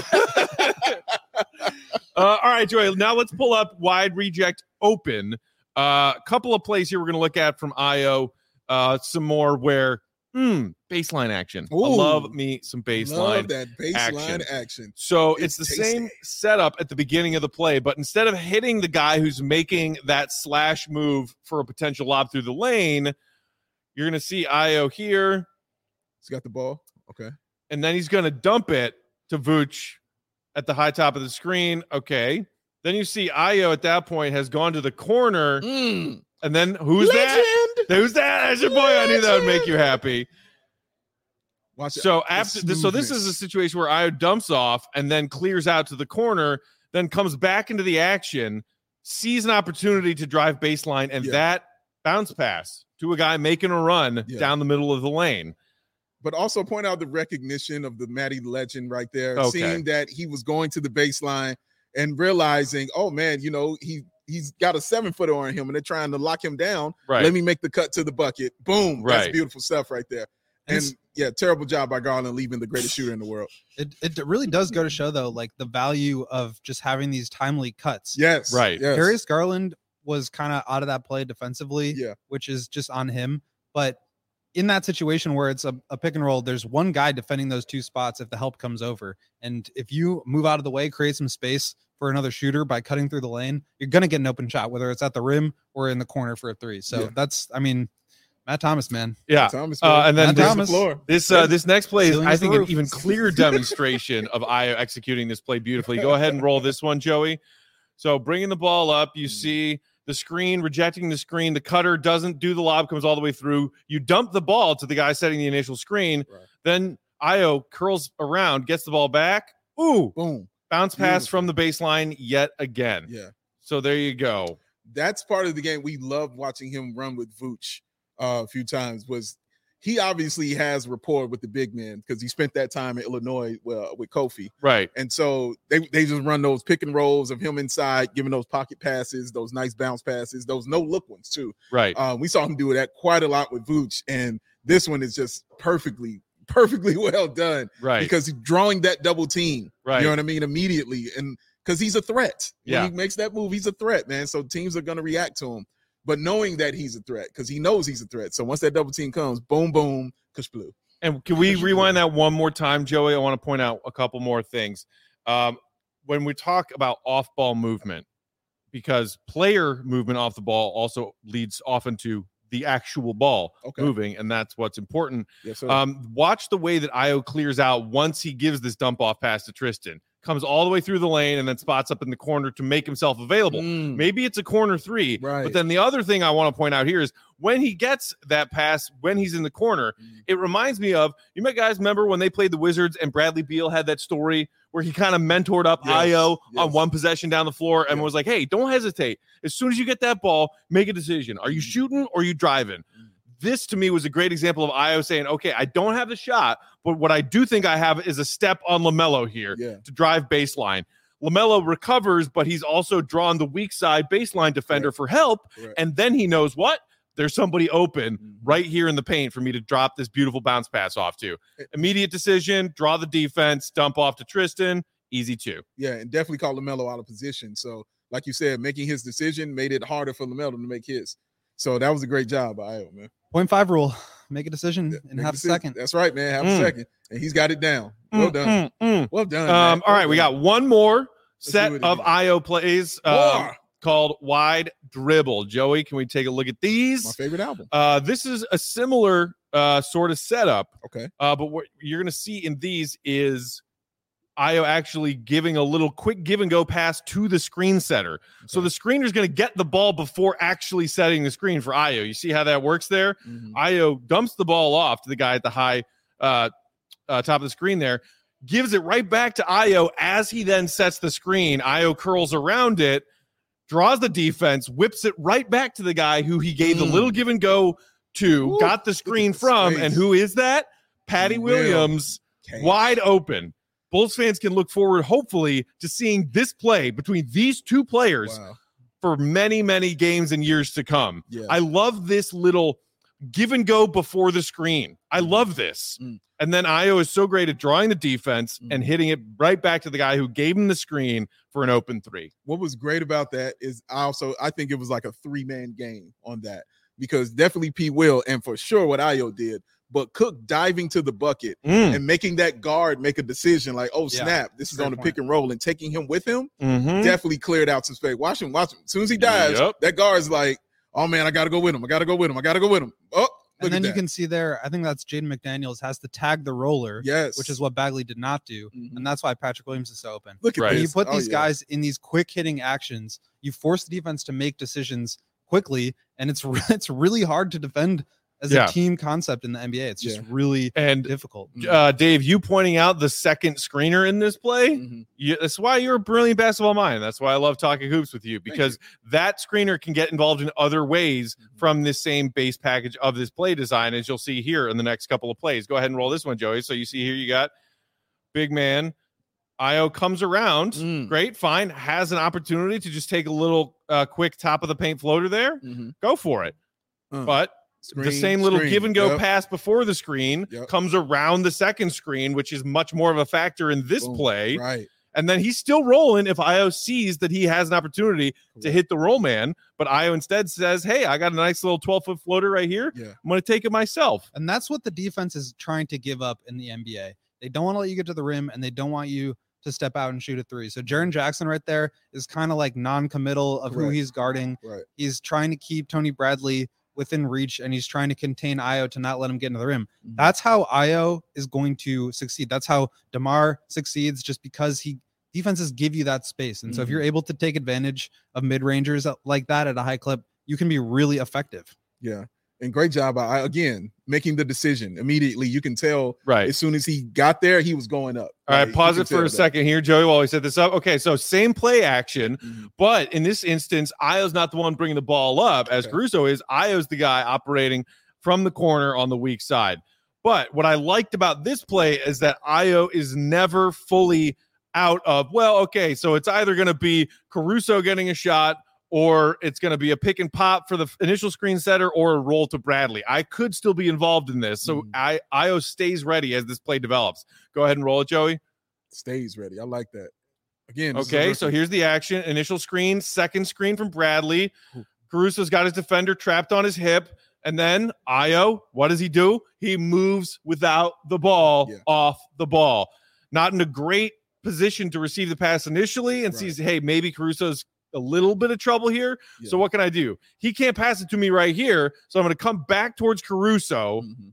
uh, all right, Joey. Now let's pull up wide reject open. A uh, couple of plays here we're going to look at from Io. Uh, some more where mm, baseline action. I Ooh. love me some baseline. Love that baseline action. action. So It's it's, the tasty. same setup at the beginning of the play, but instead of hitting the guy who's making that slash move for a potential lob through the lane, you're going to see Io here, He's got the ball. Okay. and then he's going to dump it to Vooch at the high top of the screen. Okay. Then you see Io at that point has gone to the corner, Mm. and then who's that? Who's that? That's your boy. I knew that would make you happy. Watch it. So The after this, so this is a smoothness. situation where Io dumps off and then clears out to the corner, then comes back into the action, sees an opportunity to drive baseline, and Yeah. that bounce pass to a guy making a run Yeah. down the middle of the lane. But also point out the recognition of the Matty legend right there, Okay. seeing that he was going to the baseline and realizing, oh man, you know, he he's got a seven footer on him and they're trying to lock him down. Right. Let me make the cut to the bucket. Boom. That's Right. beautiful stuff right there. And And yeah, terrible job by Garland leaving the greatest shooter in the world. It it really does go to show though, like the value of just having these timely cuts. Yes. Right. Yes. Darius Garland was kind of out of that play defensively, Yeah. which is just on him. But in that situation where it's a, a pick and roll, there's one guy defending those two spots if the help comes over. And if you move out of the way, create some space for another shooter by cutting through the lane, you're going to get an open shot, whether it's at the rim or in the corner for a three. So Yeah. that's, I mean, Matt Thomas, man. Yeah. Thomas, Uh, and then Matt this, Thomas. the floor. this uh, this next play is, Ceiling I is the think, an roof. even clearer demonstration of Io executing this play beautifully. Go ahead and roll this one, Joey. So bringing the ball up, you see the screen, rejecting the screen. The cutter doesn't do the lob, comes all the way through. You dump the ball to the guy setting the initial screen. Right. Then Io curls around, gets the ball back. Ooh, Boom. bounce pass Beautiful. from the baseline yet again. Yeah. So there you go. That's part of the game. We love watching him run with Vooch uh, a few times. Was he obviously has rapport with the big men because he spent that time in Illinois well, with Kofi. Right. And so they, they just run those pick and rolls of him inside, giving those pocket passes, those nice bounce passes, those no look ones too. Right. Um, we saw him do that quite a lot with Vooch, and this one is just perfectly, perfectly well done Right. because he's drawing that double team. Right. You know what I mean? Immediately, and because he's a threat. Yeah. When he makes that move, he's a threat, man. So teams are going to react to him, but knowing that he's a threat because he knows he's a threat. So once that double team comes, boom, boom, kush blue. And can we rewind that one more time, Joey? I want to point out a couple more things. Um, when we talk about off-ball movement, because player movement off the ball also leads often to the actual ball Okay. moving, and that's what's important. Yes, sir. Um, watch the way that Io clears out once he gives this dump off pass to Tristan. Comes all the way through the lane and then spots up in the corner to make himself available. Mm, Maybe it's a corner three, Right. but then the other thing I want to point out here is when he gets that pass, when he's in the corner, Mm. it reminds me of, you might guys remember when they played the Wizards and Bradley Beal had that story where he kind of mentored up Yes, Io on yes. one possession down the floor and Yeah. was like, hey, don't hesitate. As soon as you get that ball, make a decision. Are you Mm. shooting or are you driving? This to me was a great example of Io saying, okay, I don't have the shot, but what I do think I have is a step on LaMelo here Yeah. to drive baseline. LaMelo recovers, but he's also drawn the weak side baseline defender Right. for help. Right. And then he knows what? There's somebody open Mhm. right here in the paint for me to drop this beautiful bounce pass off to. Immediate decision, draw the defense, dump off to Tristan. Easy two. Yeah, and definitely called LaMelo out of position. So, like you said, making his decision made it harder for LaMelo to make his. So that was a great job by Io, man. Point five rule. Make a decision Yeah, in make half a decision. second. That's right, man. Half Mm. a second, and he's got it down. Well Mm, done. mm, mm. Well done. Um, man. all right, Well we done. got one more do set it of again. Io plays um, More. called Wide Dribble. Joey, can we take a look at My these? favorite album. Uh, this is a similar uh, sort of setup, Okay. uh, but what you're going to see in these is Io actually giving a little quick give and go pass to the screen setter. So Okay. the screener's going to get the ball before actually setting the screen for Io. You see how that works there? Mhm. Io dumps the ball off to the guy at the high uh, uh, top of the screen there. gives it right back to Ayo as he then sets the screen. Ayo curls around it, draws the defense, whips it right back to the guy who he gave mm. the little give and go to, Ooh, got the screen from, space. And who is that? Patty Williams, Will. Wide open. Bulls fans can look forward, hopefully, to seeing this play between these two players wow. for many, many games and years to come. Yeah. I love this little give and go before the screen. I love this. Mm. And then Ayo is so great at drawing the defense mm. and hitting it right back to the guy who gave him the screen for an open three. What was great about that is I also, I think it was like a three-man game on that, because definitely P. Will, and for sure what Ayo did, but Cook diving to the bucket mm. and making that guard make a decision like, oh, snap, yeah, this is on the point. Pick and roll, and taking him with him mm-hmm. definitely cleared out some space. Watch him, watch him. As soon as he dives, yep. that guard's like, oh, man, I got to go with him. I got to go with him. I got to go with him. Oh, and then you can see there, I think that's Jaden McDaniels has to tag the roller, yes, which is what Bagley did not do. Mm-hmm. And that's why Patrick Williams is so open. Look at right. this. You put oh, these yeah. guys in these quick hitting actions, you force the defense to make decisions quickly, and it's it's really hard to defend as yeah. a team concept in the N B A. It's just yeah. really and difficult. Uh, Dave, you pointing out the second screener in this play, mm-hmm. you, that's why you're a brilliant basketball mind. That's why I love talking hoops with you, because you. that screener can get involved in other ways mm-hmm. from this same base package of this play design, as you'll see here in the next couple of plays. Go ahead and roll this one, Joey. So you see here you got big man. Ayo comes around. Mm. Great, fine. Has an opportunity to just take a little uh, quick top of the paint floater there. Mm-hmm. Go for it. Uh. But Screen, the same little screen. give and go yep. pass before the screen yep. comes around the second screen, which is much more of a factor in this Boom. play. Right. And then he's still rolling if Ayo sees that he has an opportunity Correct. to hit the roll man. But Ayo instead says, hey, I got a nice little twelve-foot floater right here. Yeah. I'm going to take it myself. And that's what the defense is trying to give up in the N B A. They don't want to let you get to the rim, and they don't want you to step out and shoot a three. So Jaren Jackson right there is kind of like non-committal of Correct. who he's guarding. Right. He's trying to keep Tony Bradley within reach, and he's trying to contain Ayo to not let him get into the rim. Mm-hmm. That's how Ayo is going to succeed. That's how DeMar succeeds, just because he defenses give you that space. And mm-hmm. so if you're able to take advantage of mid-rangers like that at a high clip, you can be really effective. Yeah. And great job, I, again, making the decision immediately. You can tell right as soon as he got there, he was going up. All right, like, pause it for a that. second here, Joey, while we set this up. Okay, so same play action, mm-hmm. but in this instance, Ayo's not the one bringing the ball up, as okay. Caruso is. Ayo's the guy operating from the corner on the weak side. But what I liked about this play is that Ayo is never fully out of, well, okay, so it's either going to be Caruso getting a shot, or it's going to be a pick and pop for the initial screen setter, or a roll to Bradley. I could still be involved in this. So mm. I, Ayo stays ready as this play develops. Go ahead and roll it, Joey. Stays ready. I like that. Again. Okay, so here's the action. Initial screen, second screen from Bradley. Ooh. Caruso's got his defender trapped on his hip. And then Ayo, what does he do? He moves without the ball yeah. off the ball. Not in a great position to receive the pass initially, and right. sees, hey, maybe Caruso's a little bit of trouble here. Yeah. So what can I do? He can't pass it to me right here. So I'm going to come back towards Caruso mm-hmm.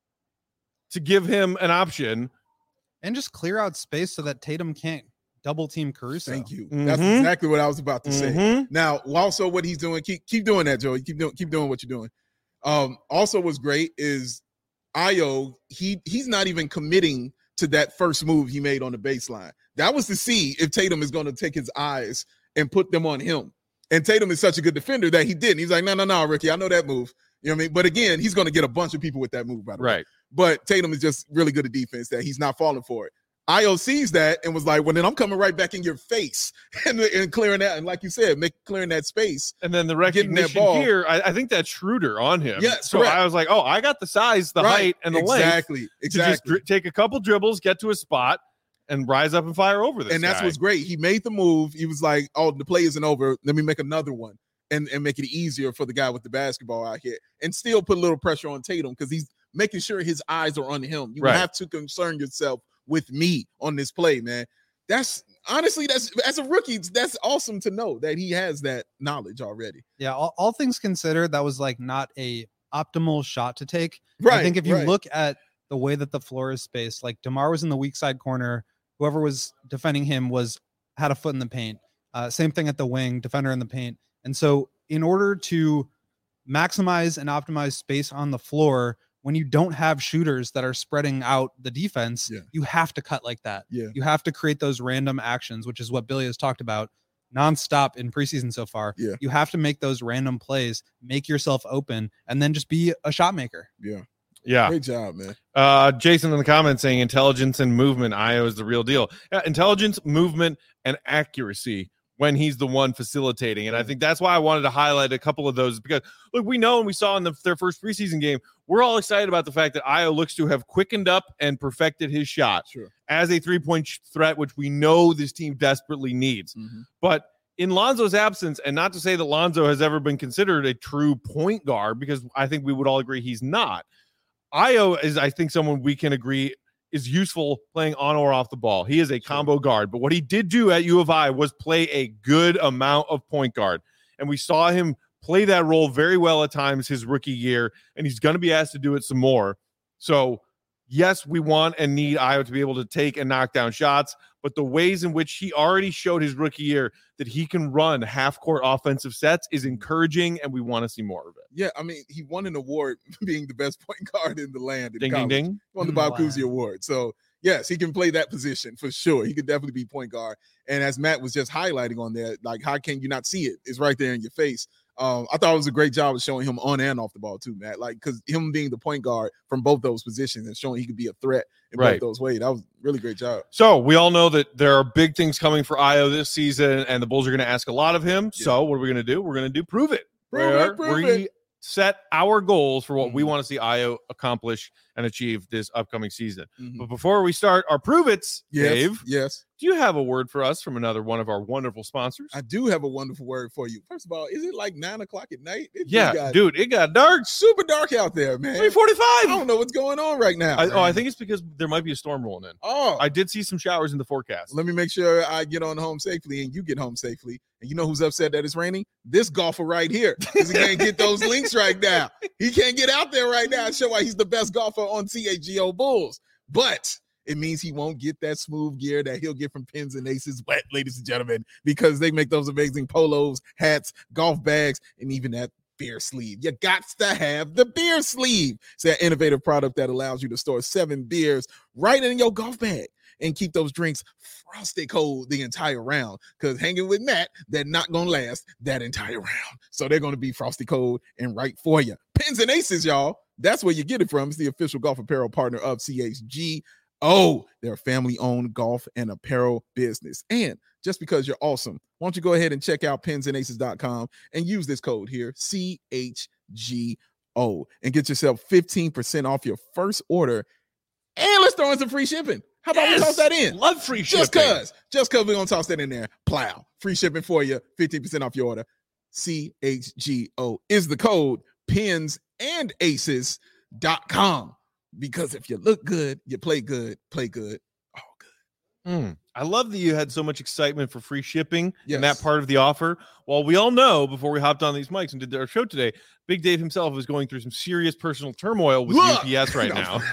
to give him an option. And just clear out space so that Tatum can't double team Caruso. Thank you. Mm-hmm. That's exactly what I was about to say. Mm-hmm. Now, also what he's doing, keep keep doing that, Joey. Keep doing keep doing what you're doing. Um, also what's great is Ayo, he he's not even committing to that first move he made on the baseline. That was to see if Tatum is going to take his eyes and put them on him. And Tatum is such a good defender that he didn't. He's like, no, no, no, Ricky, I know that move. You know what I mean? But again, he's going to get a bunch of people with that move, by the right. way. But Tatum is just really good at defense that he's not falling for it. Ayo sees that and was like, well, then I'm coming right back in your face and, and clearing that. And like you said, make clearing that space. And then the recognition here, I, I think that's Schroeder on him. Yeah, so correct. I was like, oh, I got the size, the right. height, and the exactly. length. Exactly, exactly. To just dri- take a couple dribbles, get to a spot, and rise up and fire over this And that's guy. what's great. He made the move. He was like, oh, the play isn't over. Let me make another one and, and make it easier for the guy with the basketball out here. And still put a little pressure on Tatum because he's making sure his eyes are on him. You right. have to concern yourself with me on this play, man. That's honestly, that's as a rookie, that's awesome to know that he has that knowledge already. Yeah, all, all things considered, that was like not a optimal shot to take. Right. I think if you right. look at the way that the floor is spaced, like DeMar was in the weak side corner, whoever was defending him was had a foot in the paint. Uh, same thing at the wing, defender in the paint. And so in order to maximize and optimize space on the floor, when you don't have shooters that are spreading out the defense, Yeah. you have to cut like that. Yeah. You have to create those random actions, which is what Billy has talked about nonstop in preseason so far. Yeah. You have to make those random plays, make yourself open, and then just be a shot maker. Yeah. Yeah. Great job, man. Uh, Jason in the comments saying intelligence and movement. Io is the real deal. Yeah, intelligence, movement, and accuracy when he's the one facilitating. And I think that's why I wanted to highlight a couple of those because, look, we know and we saw in the, their first preseason game, we're all excited about the fact that Io looks to have quickened up and perfected his shot Sure. as a three-point sh- threat, which we know this team desperately needs. Mm-hmm. But in Lonzo's absence, and not to say that Lonzo has ever been considered a true point guard, because I think we would all agree he's not. Io is, I think, someone we can agree is useful playing on or off the ball. He is a combo guard, but what he did do at U of I was play a good amount of point guard, and we saw him play that role very well at times his rookie year, and he's going to be asked to do it some more. So, yes, we want and need Io to be able to take and knock down shots, but the ways in which he already showed his rookie year that he can run half-court offensive sets is encouraging, and we want to see more of it. Yeah, I mean, he won an award being the best point guard in the land. In Ding, college. ding, ding. Won the Mm, Bob wow. Cousy Award. So, yes, he can play that position for sure. He could definitely be point guard. And as Matt was just highlighting on there, like, how can you not see it? It's right there in your face. Um, I thought it was a great job of showing him on and off the ball too, Matt. Like, because him being the point guard from both those positions and showing he could be a threat in Right. both those ways. That was a really great job. So we all know that there are big things coming for Io this season, and the Bulls are going to ask a lot of him. Yeah. So what are we going to do? We're going to do prove it. Prove where it, prove we it. set our goals for what we Mhm. want to see Io accomplish and achieve this upcoming season. Mhm. But before we start our prove it's, Yes, Dave, yes. do you have a word for us from another one of our wonderful sponsors? I do have a wonderful word for you. First of all, is it like nine o'clock at night? It just yeah, got dude, it got dark. super dark out there, man. three I forty-five. don't know what's going on right now. I, oh, I man. think it's because there might be a storm rolling in. Oh, I did see some showers in the forecast. let me make sure I get on home safely and you get home safely. And you know who's upset that it's raining? This golfer right here. Because he can't get those links right now. He can't get out there right now and show why he's the best golfer on C H G O Bulls. But it means he won't get that smooth gear that he'll get from Pins and Aces wet, ladies and gentlemen, because they make those amazing polos, hats, golf bags, and even that beer sleeve. You got to have the beer sleeve. It's that innovative product that allows you to store seven beers right in your golf bag and keep those drinks frosty cold the entire round. Because hanging with Matt, they're not going to last that entire round. So they're going to be frosty cold and right for you. Pins and Aces, y'all. That's where you get it from. It's the official golf apparel partner of C H G O. They're a family-owned golf and apparel business. And just because you're awesome, why don't you go ahead and check out pins and aces dot com and use this code here, C H G O, and get yourself fifteen percent off your first order. And let's throw in some free shipping. How about we toss that in? Love free shipping. Just cause, just cause we're gonna toss that in there. Plow. Free shipping for you, fifteen percent off your order. C H G O is the code, pins and aces dot com. Because if you look good, you play good, play good, all good. Mm. I love that you had so much excitement for free shipping Yes. and that part of the offer. Well, we all know before we hopped on these mics and did our show today, Big Dave himself is going through some serious personal turmoil with Look! U P S right No. now.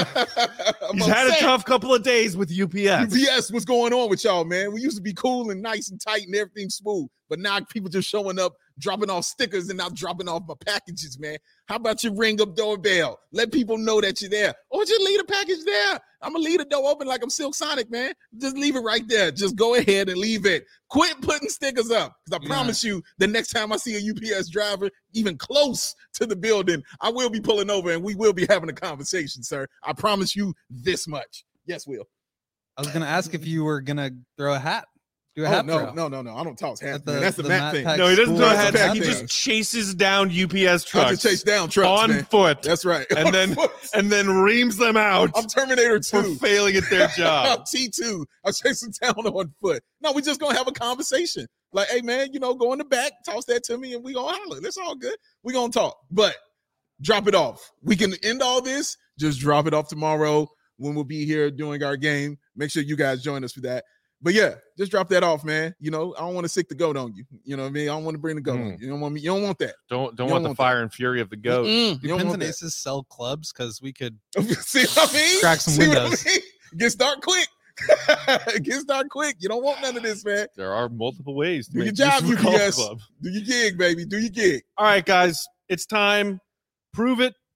I'm He's had a upset. tough couple of days with U P S. U P S, what's going on with y'all, man? We used to be cool and nice and tight and everything smooth, but now people just showing up, dropping off stickers and not dropping off my packages, man. How about you ring up doorbell? Let people know that you're there. Or just leave the package there. I'm gonna leave the door open like I'm Silk Sonic, man. Just leave it right there. Just go ahead and leave it. Quit putting stickers up. Because I Yeah. promise you, the next time I see a U P S driver even close to the building, I will be pulling over and we will be having a conversation, sir. I promise you this much. Yes, Will. I was gonna ask if you were gonna throw a hat. Do a Oh, hat no, throw. no, no, no. I don't toss hats. At the- man. That's the, the Matt Matt thing. Pack No, he doesn't throw School hats. Pack He thing. just chases down U P S I trucks just chase down trucks, on man. foot That's right. and On then foot. and then reams them out I'm Terminator for two. failing at their job. T two. I'm chasing down on foot. No, we're just gonna have a conversation. Like, hey man, you know, go in the back, toss that to me, and we gonna holler. That's all good. We gonna talk, but drop it off. We can end all this. Just drop it off tomorrow when we'll be here doing our game. Make sure you guys join us for that. But yeah, just drop that off, man. You know, I don't want to sick the goat on you. You know what I mean? I don't want to bring the goat on you. You don't want me. You don't want that. Don't don't You want don't the want fire and fury of the goat. Mm-mm. Do You don't Pins want and that. Aces sell clubs? Because we could. See what I mean? Crack some See what I windows. mean? Get start quick. Get start quick. You don't want none of this, man. There are multiple ways to Do your make job, use of a golf U P S. club. Do your gig, baby. Do your gig. All right, guys, it's time. Prove it.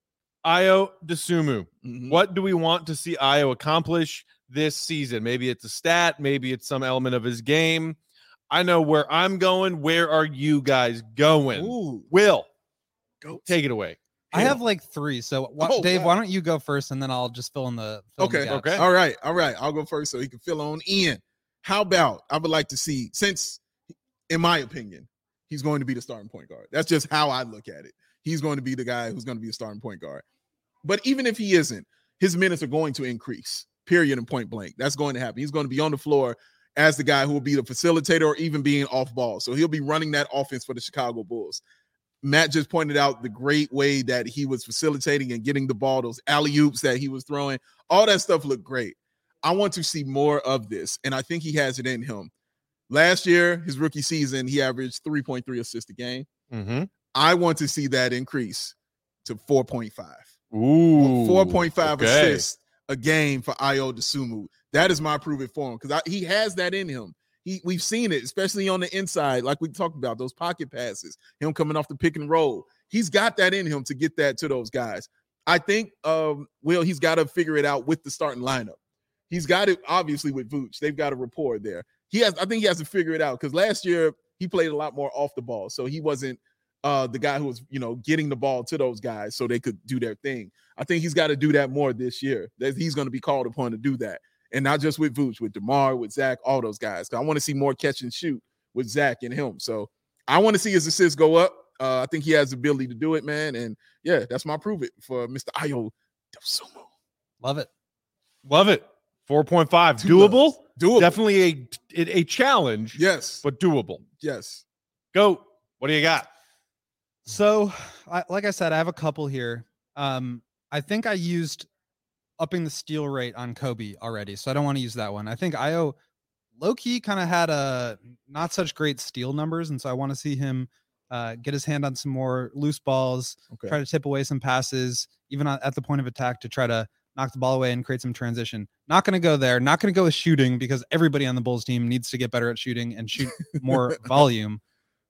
Ayo Dosunmu. Mhm. What do we want to see Ayo accomplish this season? Maybe it's a stat. Maybe it's some element of his game. I know where I'm going. Where are you guys going? Ooh, Will, go take it away. I have like three. So wh- Oh, Dave, God. why don't you go first, and then I'll just fill in the fill in the Okay. gaps. Okay. All right. All right. I'll go first so he can fill on in. How about I would like to see, since in my opinion, he's going to be the starting point guard. That's just how I look at it. He's going to be the guy who's going to be a starting point guard. But even if he isn't, his minutes are going to increase, period, and point blank. That's going to happen. He's going to be on the floor as the guy who will be the facilitator or even being off ball. So he'll be running that offense for the Chicago Bulls. Matt just pointed out the great way that he was facilitating and getting the ball, those alley-oops that he was throwing. All that stuff looked great. I want to see more of this, and I think he has it in him. Last year, his rookie season, he averaged three point three assists a game. Mm-hmm. I want to see that increase to four point five. Ooh, four point five okay. assists a game for Ayo Dosunmu. That is my prove it for him because he has that in him. He, we've seen it, especially on the inside, like we talked about, those pocket passes, him coming off the pick and roll. He's got that in him to get that to those guys. I think, um, Will, he's got to figure it out with the starting lineup. He's got it, obviously, with Vooch. They've got a rapport there. He has, I think he has to figure it out because last year he played a lot more off the ball. So he wasn't uh, the guy who was, you know, getting the ball to those guys so they could do their thing. I think he's got to do that more this year. That he's going to be called upon to do that. And not just with Vooch, with DeMar, with Zach, all those guys. I want to see more catch and shoot with Zach and him. So I want to see his assists go up. Uh, I think he has the ability to do it, man. And yeah, that's my prove it for Mister Ayo Dosunmu. Love it. Love it. four point five. Two Doable? loves. Doable. Definitely a, a challenge, Yes. but doable. Yes. Go. What do you got? So, I, like I said, I have a couple here. Um, I think I used upping the steal rate on Kobe already, so I don't want to use that one. I think Ayo low-key kind of had a not such great steal numbers, and so I want to see him uh, get his hand on some more loose balls, Okay. try to tip away some passes, even at the point of attack to try to knock the ball away and create some transition. Not going to go there. Not going to go with shooting because everybody on the Bulls team needs to get better at shooting and shoot more volume.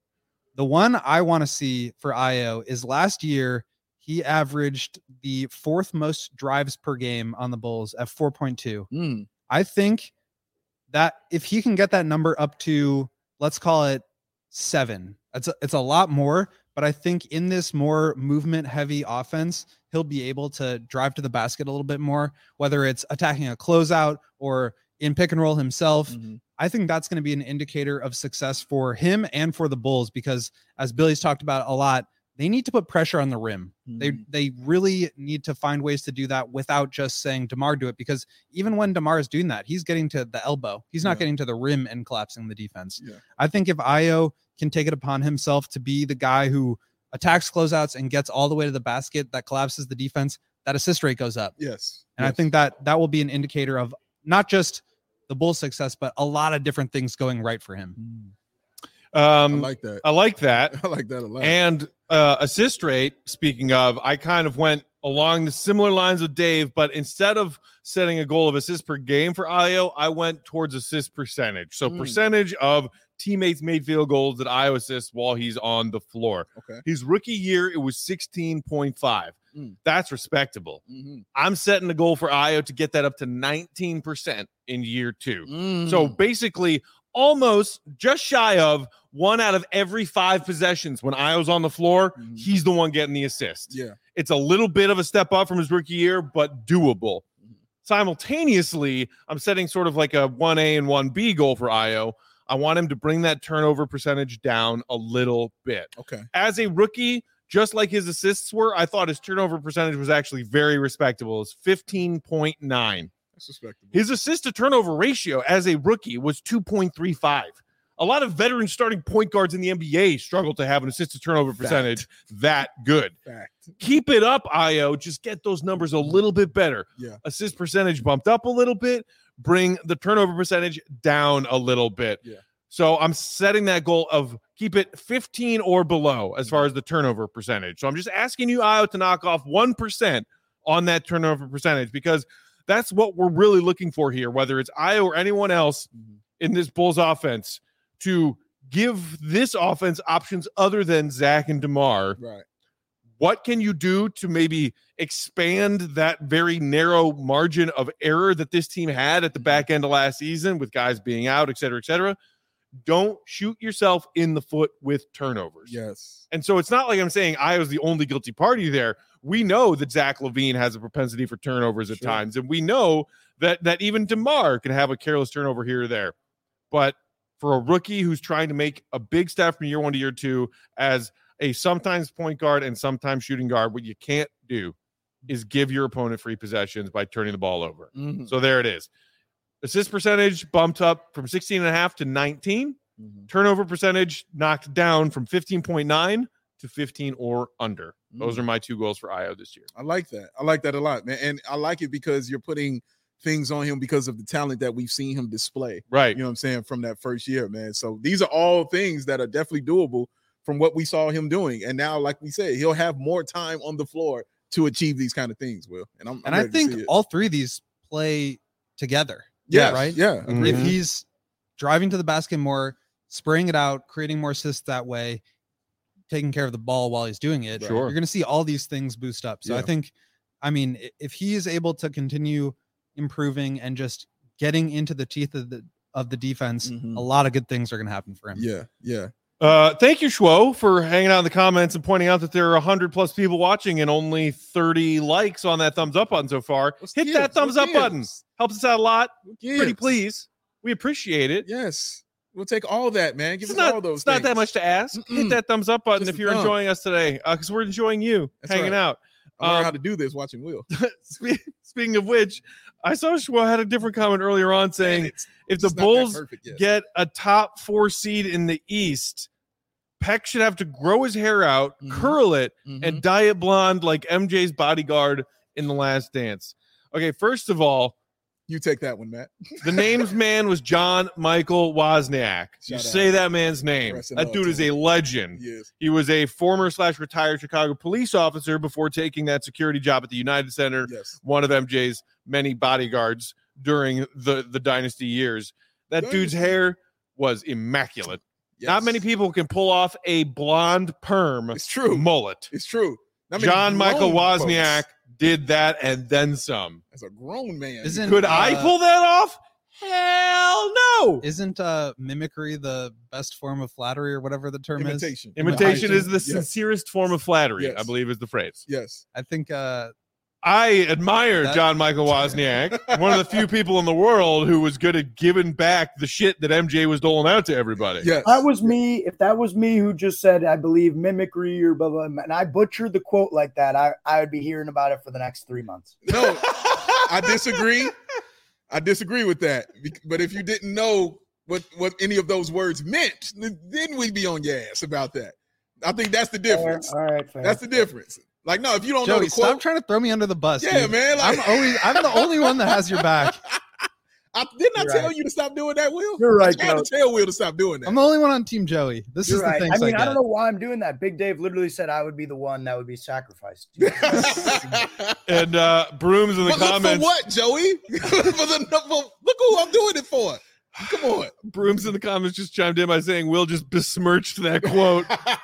The one I want to see for Ayo is last year, he averaged the fourth most drives per game on the Bulls at four point two. Mm. I think that if he can get that number up to, let's call it seven, it's a, it's a lot more, but I think in this more movement heavy offense, he'll be able to drive to the basket a little bit more, whether it's attacking a closeout or in pick and roll himself. Mm-hmm. I think that's going to be an indicator of success for him and for the Bulls, because as Billy's talked about a lot, they need to put pressure on the rim. Mm-hmm. They they really need to find ways to do that without just saying DeMar do it, because even when DeMar is doing that, he's getting to the elbow. He's not Yeah. getting to the rim and collapsing the defense. Yeah. I think if Ayo can take it upon himself to be the guy who attacks closeouts and gets all the way to the basket, that collapses the defense, that assist rate goes up. Yes. And yes. I think that that will be an indicator of not just the Bulls' success, but a lot of different things going right for him. Mm. Um, I like that. I like that. I like that a lot. And uh, assist rate, speaking of, I kind of went along the similar lines with Dave, but instead of setting a goal of assists per game for Ayo, I went towards assist percentage. So Mm. percentage of teammates made field goals that Ayo assists while he's on the floor. Okay. His rookie year, it was sixteen point five. Mm. That's respectable. Mm-hmm. I'm setting the goal for Ayo to get that up to nineteen percent in year two. Mm. So basically, almost just shy of one out of every five possessions when Ayo's on the floor, Mhm. he's the one getting the assist. yeah. It's a little bit of a step up from his rookie year, but doable. Mhm. Simultaneously, I'm setting sort of like a one A and one B goal for Ayo. I want him to bring that turnover percentage down a little bit. Okay. As a rookie, just like his assists were, I thought his turnover percentage was actually very respectable. It's fifteen point nine. That's respectable. His assist to turnover ratio as a rookie was two point three five. A lot of veteran starting point guards in the N B A struggle to have an assist to turnover Fact. percentage that good. Fact. Keep it up, Ayo. Just get those numbers a little bit better. Yeah. Assist percentage bumped up a little bit. Bring the turnover percentage down a little bit. Yeah. So I'm setting that goal of keep it fifteen or below as far as the turnover percentage. So I'm just asking you, Ayo, to knock off one percent on that turnover percentage, because that's what we're really looking for here, whether it's Ayo or anyone else Mhm. in this Bulls offense, to give this offense options other than Zach and DeMar. Right. what can you do to maybe expand that very narrow margin of error that this team had at the back end of last season with guys being out, et cetera, et cetera? Don't shoot yourself in the foot with turnovers. Yes. And so it's not like I'm saying I was the only guilty party there. We know that Zach LaVine has a propensity for turnovers at Sure. times, and we know that that even DeMar can have a careless turnover here or there. But for a rookie who's trying to make a big step from year one to year two as a sometimes point guard and sometimes shooting guard, what you can't do is give your opponent free possessions by turning the ball over. Mm-hmm. So there it is. Assist percentage bumped up from sixteen and a half to nineteen. Mm-hmm. Turnover percentage knocked down from fifteen point nine to fifteen or under. Those Mm. are my two goals for Io this year. I like that. I like that a lot, man. And I like it because you're putting things on him because of the talent that we've seen him display. Right. You know what I'm saying? From that first year, man. So these are all things that are definitely doable from what we saw him doing. And now, like we said, he'll have more time on the floor to achieve these kind of things, Will. And I'm, I'm And I ready to think see it. all three of these play together. yeah, right? Yeah. Mhm. agreed. If he's driving to the basket more, spraying it out, creating more assists that way, taking care of the ball while he's doing it, Sure. you're going to see all these things boost up. So I Yeah. think, I mean, i- if he is able to continue improving and just getting into the teeth of the of the defense, Mhm. a lot of good things are going to happen for him. Yeah. Yeah. Uh, thank you, Schwo, for hanging out in the comments and pointing out that there are one hundred plus people watching and only thirty likes on that thumbs up button so far. What's Hit gives? that thumbs What up button. gives? Helps us out a lot. What Pretty gives? please. We appreciate it. Yes. We'll take all that, man. Give It's us not, all those it's not that things. much to ask. Hit Mm-mm. that thumbs up button Just if a you're thumb. enjoying us today, because we're enjoying you That's hanging right. out. I learned Um, how to do this watching Will. Spe- Speaking of which, I saw Schwo had a different comment earlier on saying And it's- if the it's not that Bulls perfect yet. get a top four seed in the East, Peck should have to grow his hair out, Mhm. curl it, Mhm. and dye it blonde like M J's bodyguard in The Last Dance. Okay, first of all, You take that one, Matt. the name's man was John Michael Wozniak. You Shout out. say that man's name. Rest in That love dude to is him. a legend. Yes. He was a former slash retired Chicago police officer before taking that security job at the United Center, Yes. one of M J's many bodyguards during the, the dynasty years. That dude's Dynasty. hair was immaculate. Yes. Not many people can pull off a blonde perm It's true. mullet. It's true. Not many John Michael grown Wozniak folks. did that and then some. As a grown man. Isn't Could I uh, pull that off? Hell no. Isn't uh mimicry the best form of flattery or whatever the term is? imitation. Imitation is the Yes. sincerest form of flattery, I Yes. believe is the phrase. Yes. I think uh I admire That- John Michael Wozniak, one of the few people in the world who was good at giving back the shit that M J was doling out to everybody. Yes. That was me. If that was me who just said, I believe mimicry or blah, blah, blah, and I butchered the quote like that, I, I would be hearing about it for the next three months. No, I disagree. I disagree with that. Bec- But if you didn't know what, what any of those words meant, then we'd be on your ass about that. I think that's the difference. Fair. All right, fair. That's the difference. Like, no, if you don't know Joey, the quote, stop trying to throw me under the bus. yeah, dude. man. Like, I'm always I'm the only one that has your back. I didn't I You're tell right. you to stop doing that, Will? You're I right, tried to Joe. tell Will to stop doing that. I'm the only one on Team Joey. This You're is right. the things I mean, I I, get. don't know why I'm doing that. Big Dave literally said I would be the one that would be sacrificed. And uh, Brooms in the But look comments. for what, Joey? for the, for, look who I'm doing it for. Come on. Brooms in the comments just chimed in by saying Will just besmirched that quote.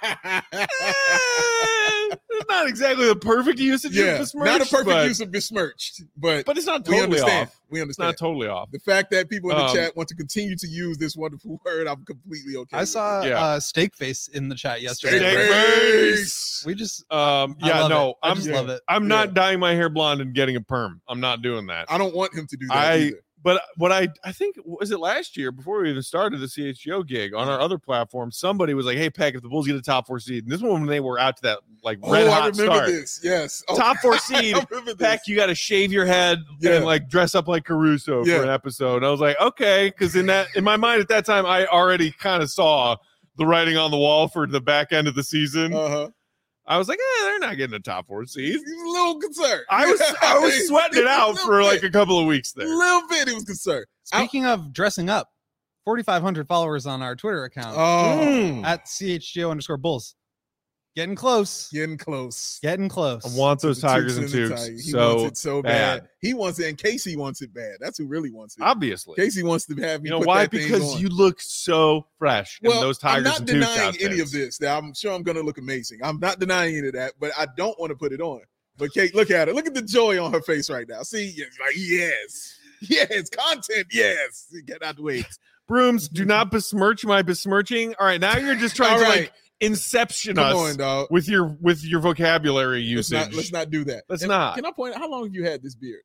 Eh, not exactly the perfect usage yeah, of besmirched, not a perfect but, use of besmirched, but, but it's not we totally understand. off. We It's understand. not totally off. The fact that people in the Um, chat want to continue to use this wonderful word, I'm completely okay. I with. saw Yeah. uh steak face in the chat yesterday. Steak Steak face. face. We just Um, I yeah, love no, it. I I'm just yeah. love it. I'm Yeah. not dyeing my hair blonde and getting a perm. I'm not doing that. I don't want him to do that I- either. But what I I think was it last year before we even started the C H G O gig on our other platform, somebody was like, "Hey, Peck, if the Bulls get a top four seed," and this one when they were out to that like red Oh, hot I remember start, this. Yes. Oh, top four I seed. remember this. Peck, you got to shave your head Yeah. and like dress up like Caruso Yeah. for an episode. And I was like, okay, because in that in my mind at that time, I already kind of saw the writing on the wall for the back end of the season. Uh-huh. I was like, eh, they're not getting a top four seed. He was a little concerned. I was I was sweating it out for like a couple of weeks a there. little bit. He was concerned. Speaking of dressing up, forty-five hundred followers on our Twitter account Oh, Mm. at C H G O underscore Bulls. Getting close. Getting close. Getting close. I want those The Tigers and the Tukes Tigers. He so wants it so bad. bad. He wants it, and Casey wants it bad. That's who really wants it. Obviously. Casey wants to have me. You know put why? that thing Because on. you look so fresh well, in those I'm Tigers not and Tukes denying any of outfits. this. That I'm sure I'm going to look amazing. I'm not denying any of that, but I don't want to put it on. But Kate, look at her. Look at the joy on her face right now. See, it's like yes, yes, content, yes. Get out the way. Brooms, do not besmirch my besmirching. All right, now you're just trying All to right. like inception Come us on, dog. with your with your vocabulary Let's usage. not, let's not do that. Let's And not. Can I point out how long have you had this beard?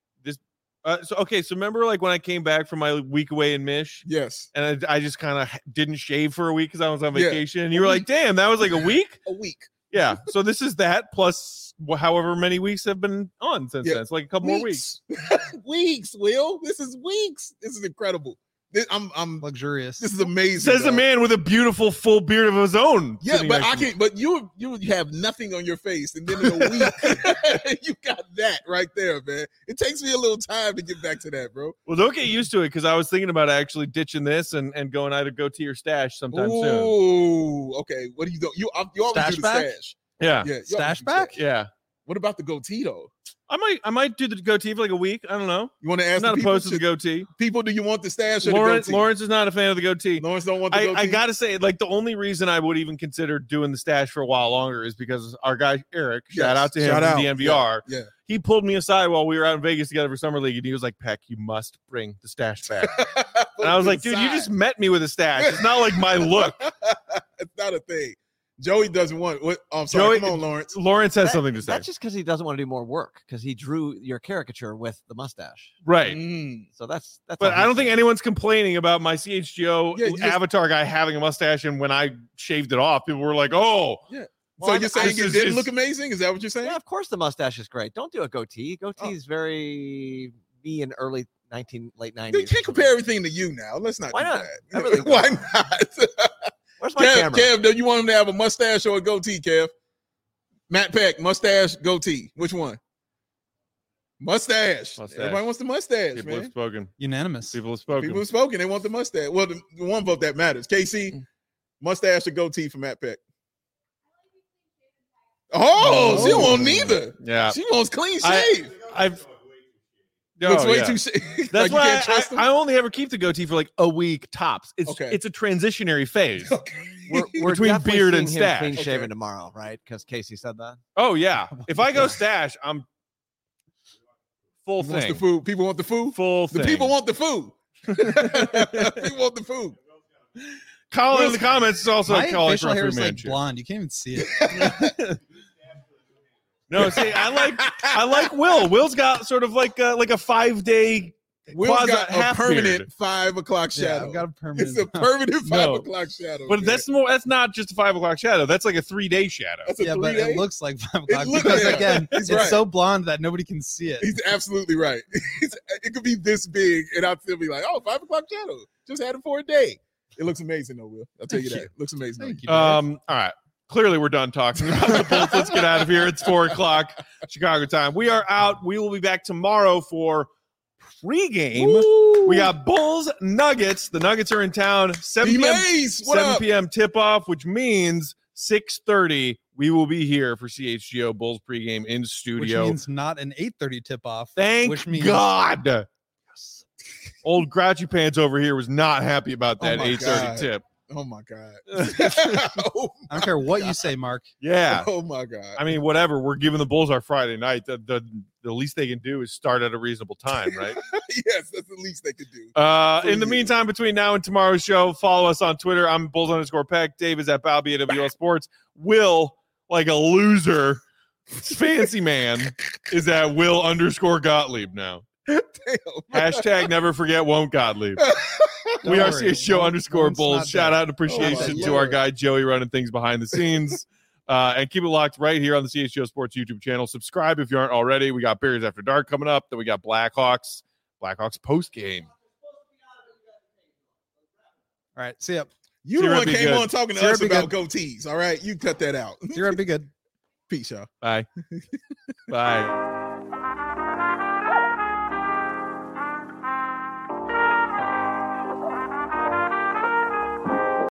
Uh, so okay, so remember like when I came back from my week away in Mish, Yes, and I, I just kind of didn't shave for a week because I was on Yeah. vacation, and you were like, "Damn, that was like a week." a week. Yeah, so this is that plus wh- however many weeks have been on since Yeah. then. It's like a couple more weeks. weeks, Will. This is weeks. This is incredible. This, I'm, I'm. Luxurious. This is amazing. Says the dog. man with a beautiful full beard of his own. Yeah, sitting but next I to me. can. But you, you have nothing on your face, and then in a week, you got that right there, man. It takes me a little time to get back to that, bro. Well, don't get used to it because I was thinking about actually ditching this and, and going either goatee or stash sometime soon. Ooh, okay. What do you do? You, you always Stash do the back? stash. Yeah, Yeah, you always Stash do back? yeah. What about the goatee though? I might I might do the goatee for like a week. I don't know. You want to I'm ask not the people, opposed to the should- goatee. people? Do you want the stash or Lawrence the goatee? Lawrence is not a fan of the goatee. Lawrence don't want the I, goatee. I gotta say, like the only reason I would even consider doing the stash for a while longer is because our guy Eric, shout Yes, out to him shout from out. the N V R. Yeah. He pulled me aside while we were out in Vegas together for summer league, and he was like, "Peck, you must bring the stash back." yeah. And I was like, "Dude, you just met me with a stash. It's not like my look." It's not a thing. Joey doesn't want. What? Oh, I'm sorry. Joey- Come on, Lawrence. Lawrence has That- something to say. That's just because he doesn't want to do more work because he drew your caricature with the mustache. Right. Mm. So that's that's. But all I don't he's think saying. anyone's complaining about my C H G O Yeah, you just- avatar guy having a mustache, and when I shaved it off, people were like, "Oh, So Well, you're I- saying this it is- didn't is- look amazing? Is that what you're saying? Yeah, of course the mustache is great. Don't do a goatee. Goatee Oh. is very me in early nineteen late You nineties. can't compare everything to you now. Let's not Why do not? that. I really Why not? Where's my Kev, camera? Kev, do you want him to have a mustache or a goatee, Kev? Matt Peck, mustache, goatee. Which one? Mustache. Mustache. Everybody wants the mustache, people have man. spoken. Unanimous. People have spoken." People have spoken. They want the mustache. Well, the, the one vote that matters. K C, mustache or goatee for Matt Peck? Oh, she don't want neither. Yeah, She wants clean I- shave. I've. Looks Oh, way yeah. too shaved. That's like you why can't trust I, him. I only ever keep the goatee for like a week tops. It's Okay. it's a transitionary phase. Okay. We're, we're Between definitely beard and seeing him stash. clean Okay. shaven tomorrow, right? Because Casey said that. Oh yeah, if I go stash, I'm full He wants thing. the food. People want the food. Full The thing. people want the food. People want the food. Colin in the comments is also My calling facial for a hair food is like manager. blonde. You can't even see it. No, see, I like I like Will. Will's got sort of like a, like a five day. Will's Quasi- got a half permanent beard. five o'clock Yeah, shadow. I've got a permanent. It's a permanent five No. o'clock shadow. But man. that's more. That's not just a five o'clock shadow. That's like a three day shadow. that's a yeah, three but day. it looks like five o'clock look- because yeah, again, he's it's right. so blonde that nobody can see it. He's absolutely right. He's- it could be this big, and I'll still be like, "Oh, five o'clock shadow. Just had it for a day." It looks amazing, though, Will. I'll tell you Thank that. you. Looks amazing. Thank you. Um. All right. Clearly, we're done talking about the Bulls. Let's get out of here. It's four o'clock Chicago time. We are out. We will be back tomorrow for pregame. Woo! We got Bulls Nuggets. The Nuggets are in town. seven p.m. D-Maze, what seven up? p.m. tip off, which means six thirty. We will be here for C H G O Bulls pregame in Which studio. means not an eight thirty tip off. Thank which means God. Old Grouchy Pants over here was not happy about Oh that my eight thirty God. tip. Oh my god. oh, I don't care what you say, Mark. Yeah. oh my god. I mean, whatever. We're giving the Bulls our Friday night. The, the the least they can do is start at a reasonable time, right? yes, that's the least they could do. Uh, For in the you. meantime, between now and tomorrow's show, follow us on Twitter. I'm Bulls underscore Peck. Dave is at Balby at W L Sports. Will, like a loser, fancy man, is at Will underscore Gottlieb now. Damn. Hashtag never forget won't Gottlieb. Don't we are worry. C H G O Won't- underscore won't Bulls. not Shout that. out and appreciation Oh my to our Lord. guy Joey running things behind the scenes. Uh, and keep it locked right here on the C H G O Sports YouTube channel. Subscribe if you aren't already. We got Bears After Dark coming up. Then we got Blackhawks. Blackhawks post game. All right, see ya. You the Zero one be came good. on talking to Zero us be about goatees. All right, you cut that out. You're be good. Peace, y'all. Bye. Bye.